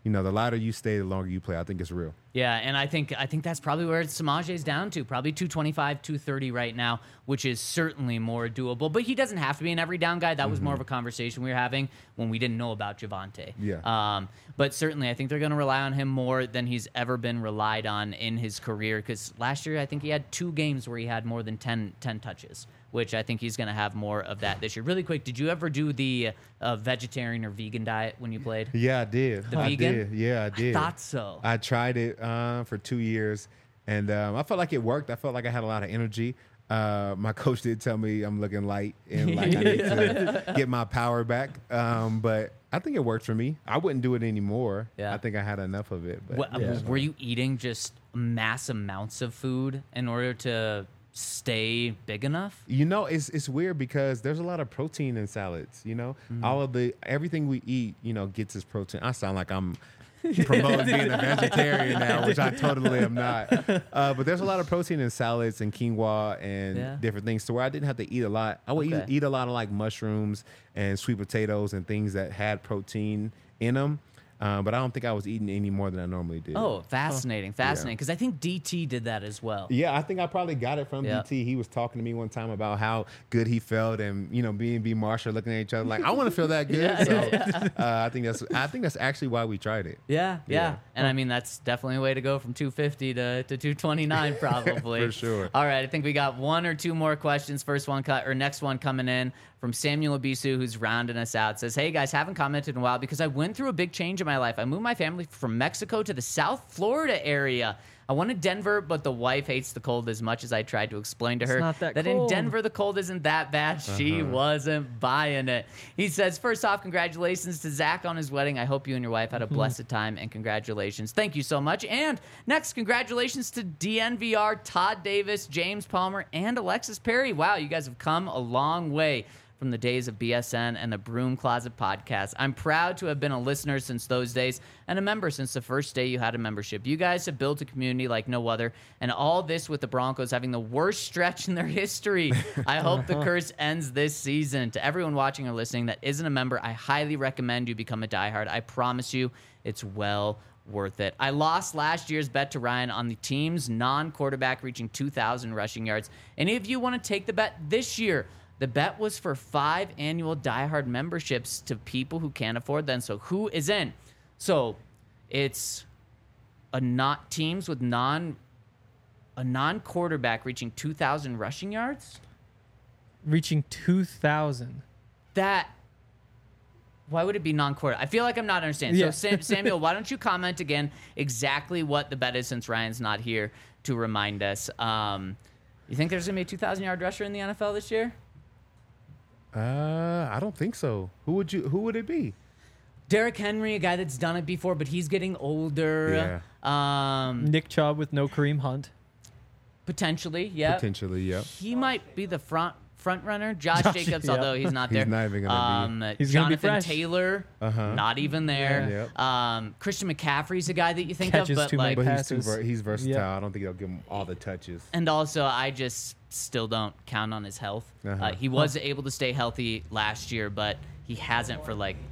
[SPEAKER 4] you know, the lighter you stay, the longer you play. I think it's real.
[SPEAKER 2] Yeah, and I think I think that's probably where Samaje's down to, probably two twenty-five, two thirty right now, which is certainly more doable. But he doesn't have to be an every down guy. That was more of a conversation we were having when we didn't know about Javonte.
[SPEAKER 4] Yeah.
[SPEAKER 2] Um, but certainly, I think they're going to rely on him more than he's ever been relied on in his career. Because last year, I think he had two games where he had more than ten, ten touches, which I think he's going to have more of that this year. Really quick, did you ever do the uh, vegetarian or vegan diet when you played?
[SPEAKER 4] Yeah, I did.
[SPEAKER 2] The
[SPEAKER 4] I
[SPEAKER 2] vegan?
[SPEAKER 4] did. Yeah, I did.
[SPEAKER 2] Thought so.
[SPEAKER 4] I tried it uh, for two years, and um, I felt like it worked. I felt like I had a lot of energy. Uh, my coach did tell me I'm looking light and like I need to get my power back. Um, but I think it worked for me. I wouldn't do it anymore.
[SPEAKER 2] Yeah.
[SPEAKER 4] I think I had enough of it. But
[SPEAKER 2] What,
[SPEAKER 4] yeah.
[SPEAKER 2] Were you eating just mass amounts of food in order to stay big enough?
[SPEAKER 4] You know, it's it's weird because there's a lot of protein in salads. You know, all of the everything we eat, you know, gets its protein. I sound like I'm promoting being a vegetarian now, which I totally am not. Uh, but there's a lot of protein in salads and quinoa and
[SPEAKER 2] Yeah.
[SPEAKER 4] different things, to where I didn't have to eat a lot. I would
[SPEAKER 2] Okay.
[SPEAKER 4] eat, eat a lot of like mushrooms and sweet potatoes and things that had protein in them. Uh, but I don't think I was eating any more than I normally did.
[SPEAKER 2] Oh, fascinating, fascinating. Because I think D T did that as well.
[SPEAKER 4] Yeah, I think I probably got it from
[SPEAKER 2] Yeah.
[SPEAKER 4] D T. He was talking to me one time about how good he felt, and you know, B and B Marshall looking at each other like, I want to feel that good.
[SPEAKER 2] Yeah.
[SPEAKER 4] So uh, I think that's I think that's actually why we tried it.
[SPEAKER 2] Yeah, yeah,
[SPEAKER 4] Yeah.
[SPEAKER 2] and I mean that's definitely a way to go from two fifty to, to two twenty-nine probably.
[SPEAKER 4] For sure.
[SPEAKER 2] All right, I think we got one or two more questions. First one cut or next one coming in from Samuel Abisu, who's rounding us out. Says, "Hey guys, haven't commented in a while because I went through a big change in my life. I moved my family from Mexico to the South Florida area. I wanted Denver, but the wife hates the cold as much as I tried to explain to her
[SPEAKER 3] not that
[SPEAKER 2] in
[SPEAKER 3] cold.
[SPEAKER 2] Denver the cold isn't that bad. She wasn't buying it." He says, "First off, congratulations to Zach on his wedding. I hope you and your wife had a blessed time, and congratulations." Thank you so much. And next, congratulations to D N V R, Todd Davis, James Palmer, and Alexis Perry. Wow, you guys have come a long way from the days of B S N and the Broom Closet podcast. I'm proud to have been a listener since those days and a member since the first day you had a membership. You guys have built a community like no other, and all this with the Broncos having the worst stretch in their history. I hope the curse ends this season. To everyone watching or listening that isn't a member, I highly recommend you become a diehard. I promise you, it's well worth it. I lost last year's bet to Ryan on the team's non-quarterback reaching two thousand rushing yards. Any of you want to take the bet this year? The bet was for five annual diehard memberships to people who can't afford them. So who is in? So it's a not teams with non a non quarterback reaching two thousand rushing yards.
[SPEAKER 3] Reaching two thousand.
[SPEAKER 2] That why would it be non quarter? I feel like I'm not understanding.
[SPEAKER 3] Yeah.
[SPEAKER 2] So Sam, Samuel, why don't you comment again exactly what the bet is since Ryan's not here to remind us? Um, you think there's gonna be a two thousand yard rusher in the N F L this year?
[SPEAKER 4] Uh, I don't think so. Who would you? Who would it be?
[SPEAKER 2] Derrick Henry, a guy that's done it before, but he's getting older. Um,
[SPEAKER 3] Nick Chubb with no Kareem Hunt.
[SPEAKER 2] potentially, yeah.
[SPEAKER 4] Potentially, yep.
[SPEAKER 2] He might be the front front runner. Josh,
[SPEAKER 3] Josh,
[SPEAKER 2] Jacobs,
[SPEAKER 3] yeah.
[SPEAKER 2] although he's not
[SPEAKER 4] He's
[SPEAKER 2] there.
[SPEAKER 4] not even gonna be.
[SPEAKER 2] um,
[SPEAKER 3] He's gonna be
[SPEAKER 2] Jonathan
[SPEAKER 3] fresh.
[SPEAKER 2] Taylor,
[SPEAKER 4] Uh-huh.
[SPEAKER 2] not even there.
[SPEAKER 4] Yeah. Yep.
[SPEAKER 2] Um, Christian McCaffrey's a guy that you think
[SPEAKER 3] Catches
[SPEAKER 2] of, but
[SPEAKER 3] too many
[SPEAKER 2] like,
[SPEAKER 4] But he's too
[SPEAKER 3] passes.
[SPEAKER 4] ver- he's versatile.
[SPEAKER 3] Yeah.
[SPEAKER 4] I don't think they'll give him all the touches.
[SPEAKER 2] and also I just still don't count on his health.
[SPEAKER 4] Uh-huh.
[SPEAKER 2] Uh, he was able to stay healthy last year, but he hasn't for like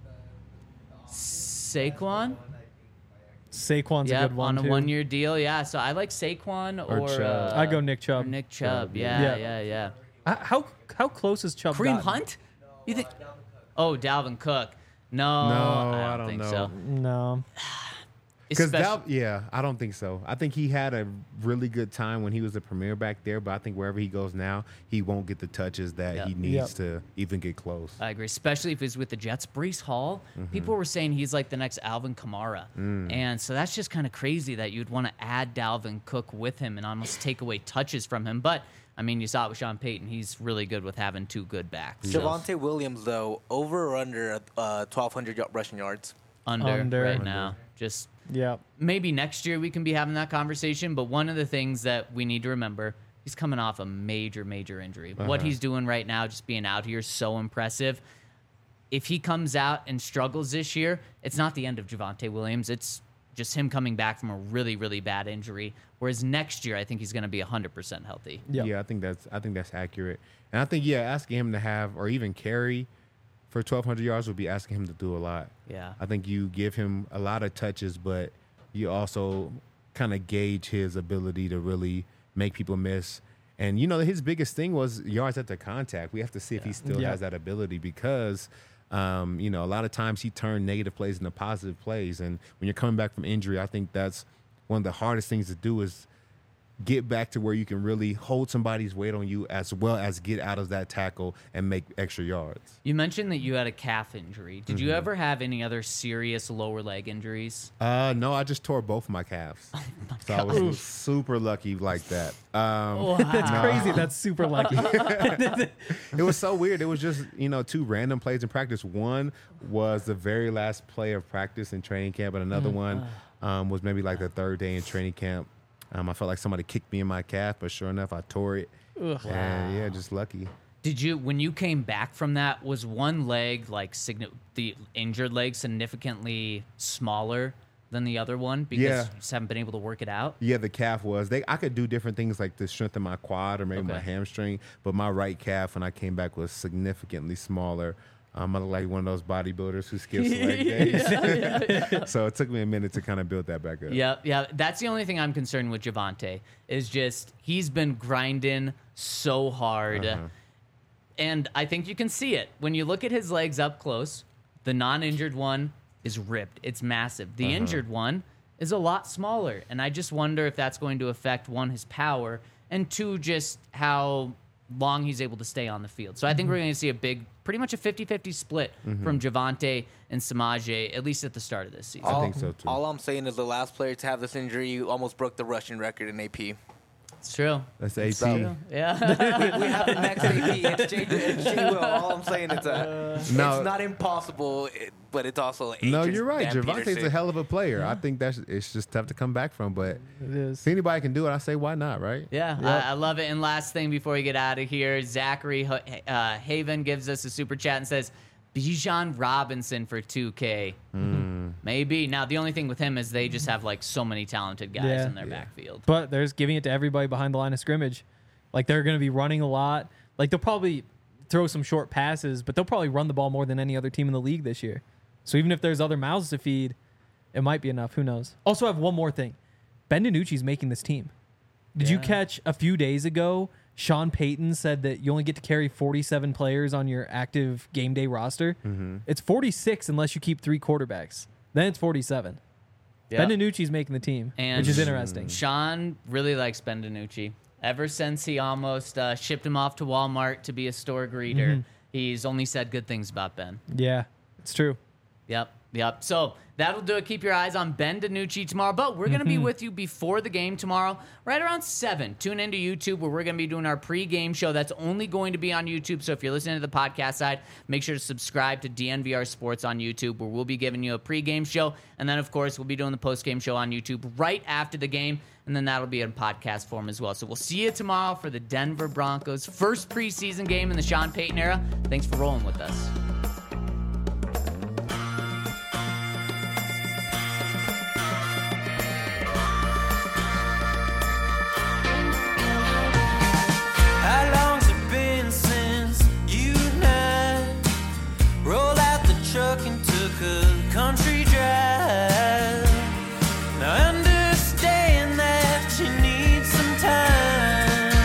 [SPEAKER 2] Saquon.
[SPEAKER 3] Saquon's a
[SPEAKER 2] Yeah,
[SPEAKER 3] good one
[SPEAKER 2] on a
[SPEAKER 3] too.
[SPEAKER 2] one-year deal. Yeah, so I like Saquon or,
[SPEAKER 4] Or Chubb.
[SPEAKER 2] uh,
[SPEAKER 3] I go Nick Chubb.
[SPEAKER 2] or Nick Chubb. Yeah,
[SPEAKER 3] Yeah.
[SPEAKER 2] yeah, yeah.
[SPEAKER 3] Uh, How how close is Chubb?
[SPEAKER 2] Kareem
[SPEAKER 3] gotten?
[SPEAKER 2] Hunt? You think? Oh, Dalvin Cook. No,
[SPEAKER 4] No,
[SPEAKER 2] I don't,
[SPEAKER 4] I don't
[SPEAKER 2] think
[SPEAKER 4] know.
[SPEAKER 2] so.
[SPEAKER 3] No.
[SPEAKER 4] Because
[SPEAKER 2] Especially-
[SPEAKER 4] yeah, I don't think so. I think he had a really good time when he was the premier back there, but I think wherever he goes now, he won't get the touches that
[SPEAKER 2] Yep.
[SPEAKER 4] he needs
[SPEAKER 3] Yep.
[SPEAKER 4] to even get close.
[SPEAKER 2] I agree, especially if he's with the Jets. Brees Hall,
[SPEAKER 4] Mm-hmm.
[SPEAKER 2] people were saying he's like the next Alvin Kamara.
[SPEAKER 4] Mm.
[SPEAKER 2] And so that's just kind of crazy that you'd want to add Dalvin Cook with him and almost take away touches from him. But, I mean, you saw it with Sean Payton. He's really good with having two good backs. So
[SPEAKER 7] Javonte Williams, though, over or under uh, twelve hundred y- rushing yards?
[SPEAKER 2] under,
[SPEAKER 3] Under.
[SPEAKER 2] right
[SPEAKER 3] Under.
[SPEAKER 2] now. Just
[SPEAKER 3] Yeah.
[SPEAKER 2] maybe next year we can be having that conversation. But one of the things that we need to remember, he's coming off a major, major injury. What
[SPEAKER 4] Uh-huh.
[SPEAKER 2] he's doing right now, just being out here, is so impressive. If he comes out and struggles this year, it's not the end of Javonte Williams. It's just him coming back from a really, really bad injury. Whereas next year, I think he's going to be one hundred percent healthy.
[SPEAKER 3] Yeah.
[SPEAKER 4] Yeah, I think that's I think that's accurate. And I think yeah, asking him to have or even carry for twelve hundred yards would be asking him to do a lot.
[SPEAKER 2] Yeah.
[SPEAKER 4] I think you give him a lot of touches, but you also kind of gauge his ability to really make people miss. And, you know, his biggest thing was yards after contact. We have to see if he still
[SPEAKER 3] Yeah.
[SPEAKER 4] has that ability because, um, you know, a lot of times he turned negative plays into positive plays. And when you're coming back from injury, I think that's one of the hardest things to do is get back to where you can really hold somebody's weight on you as well as get out of that tackle and make extra yards.
[SPEAKER 2] You mentioned that you had a calf injury. Did
[SPEAKER 4] Mm-hmm.
[SPEAKER 2] you ever have any other serious lower leg injuries?
[SPEAKER 4] Uh, no, I just tore both of my calves. So I was super lucky like that. Um,
[SPEAKER 3] That's
[SPEAKER 4] No.
[SPEAKER 3] crazy. That's super lucky.
[SPEAKER 4] It was so weird. It was just, you know, two random plays in practice. One was the very last play of practice in training camp, and another one um, was maybe like the third day in training camp. Um, I felt like somebody kicked me in my calf, but sure enough, I tore it.
[SPEAKER 3] Ugh.
[SPEAKER 4] And yeah, just lucky.
[SPEAKER 2] Did you, when you came back from that, was one leg, like signi- the injured leg, significantly smaller than the other one because
[SPEAKER 4] Yeah.
[SPEAKER 2] you just haven't been able to work it out?
[SPEAKER 4] Yeah, the calf was. They I could do different things like to strengthen my quad or maybe my
[SPEAKER 2] Okay.
[SPEAKER 4] hamstring, but my right calf when I came back was significantly smaller. Um, I look like one of those bodybuilders who skips leg days. So it took me a minute to kind of build that back up.
[SPEAKER 2] Yeah, yeah. That's the only thing I'm concerned with Javonte is just he's been grinding so hard.
[SPEAKER 4] Uh-huh.
[SPEAKER 2] And I think you can see it. When you look at his legs up close, the non-injured one is ripped. It's massive. The
[SPEAKER 4] Uh-huh.
[SPEAKER 2] injured one is a lot smaller. And I just wonder if that's going to affect, one, his power, and two, just how long he's able to stay on the field. So I think we're going to see a big, pretty much a fifty-fifty split from Javonte and Samaje, at least at the start of this season.
[SPEAKER 4] I think so too.
[SPEAKER 7] All I'm saying is the last player to have this injury almost broke the rushing record in A P.
[SPEAKER 2] It's true.
[SPEAKER 4] That's A P.
[SPEAKER 7] So-
[SPEAKER 2] Yeah.
[SPEAKER 7] we have the next A P. It's J. It's J. Will. All I'm saying is that
[SPEAKER 4] No.
[SPEAKER 7] it's not impossible, it- but it's also
[SPEAKER 4] No,
[SPEAKER 7] Adrian
[SPEAKER 4] you're right.
[SPEAKER 7] Dan
[SPEAKER 4] Javonte's
[SPEAKER 7] Peterson.
[SPEAKER 4] a hell of a player. I think that's it's just tough to come back from. But
[SPEAKER 3] It is.
[SPEAKER 4] if anybody can do it, I say why not, right?
[SPEAKER 2] Yeah, I, I love it. And last thing before we get out of here, Zachary uh, Haven gives us a super chat and says, Bijan Robinson for two K. Maybe. Now, the only thing with him is they just have like so many talented guys
[SPEAKER 3] Yeah.
[SPEAKER 2] in their
[SPEAKER 4] Yeah.
[SPEAKER 2] backfield.
[SPEAKER 3] But there's giving it to everybody behind the line of scrimmage. Like they're going to be running a lot. Like they'll probably throw some short passes, but they'll probably run the ball more than any other team in the league this year. So even if there's other mouths to feed, it might be enough. Who knows? Also, I have one more thing. Ben DiNucci's making this team. Did you
[SPEAKER 2] Yeah.
[SPEAKER 3] catch a few days ago? Sean Payton said that you only get to carry forty-seven players on your active game day roster.
[SPEAKER 4] Mm-hmm.
[SPEAKER 3] It's forty-six unless you keep three quarterbacks. Then it's forty-seven. Ben DiNucci's making the team,
[SPEAKER 2] And
[SPEAKER 3] which is interesting.
[SPEAKER 2] Sean really likes Ben DiNucci. Ever since he almost uh, shipped him off to Walmart to be a store greeter,
[SPEAKER 3] Mm-hmm.
[SPEAKER 2] he's only said good things about Ben.
[SPEAKER 3] Yeah, it's true.
[SPEAKER 2] Yep, yep. So that'll do it. Keep your eyes on Ben DiNucci tomorrow. But we're going to be with you before the game tomorrow, right around seven. Tune into YouTube where we're going to be doing our pregame show. That's only going to be on YouTube. So if you're listening to the podcast side, make sure to subscribe to D N V R Sports on YouTube where we'll be giving you a pregame show. And then, of course, we'll be doing the postgame show on YouTube right after the game. And then that'll be in podcast form as well. So we'll see you tomorrow for the Denver Broncos' first preseason game in the Sean Payton era. Thanks for rolling with us.
[SPEAKER 1] How long's it been since you and I rolled out the truck and took a country drive? Now I understand that you need some time.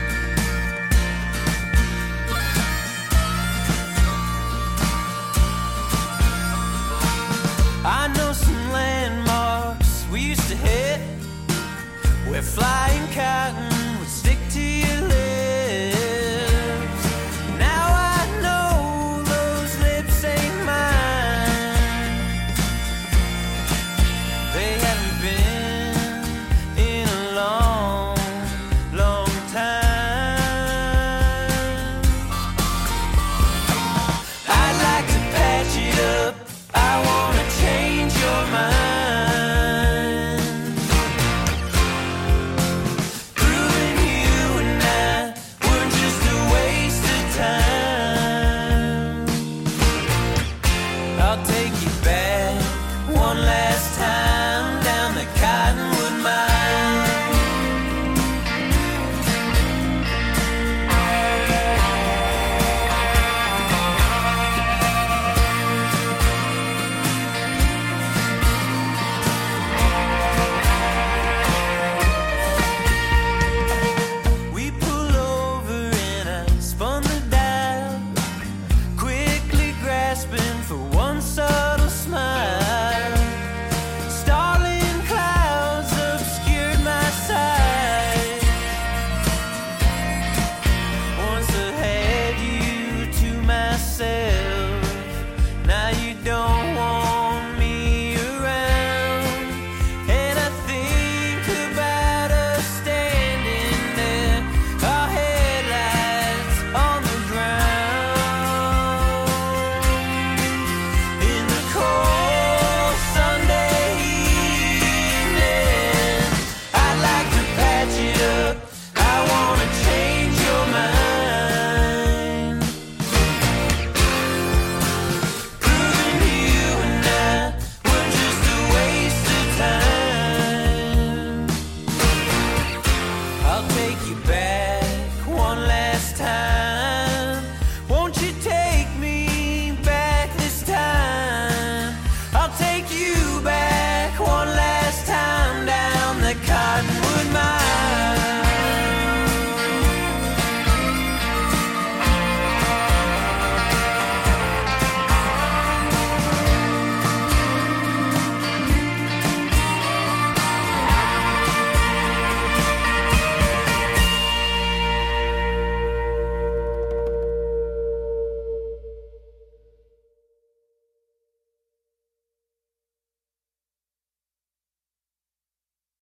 [SPEAKER 1] I know some landmarks we used to hit where flying cotton would stick to your lips. Now I know those lips ain't mine. They haven't been in a long, long time. I'd like to patch it up. I wanna change your mind. Proving you and I were just a waste of time. I'll take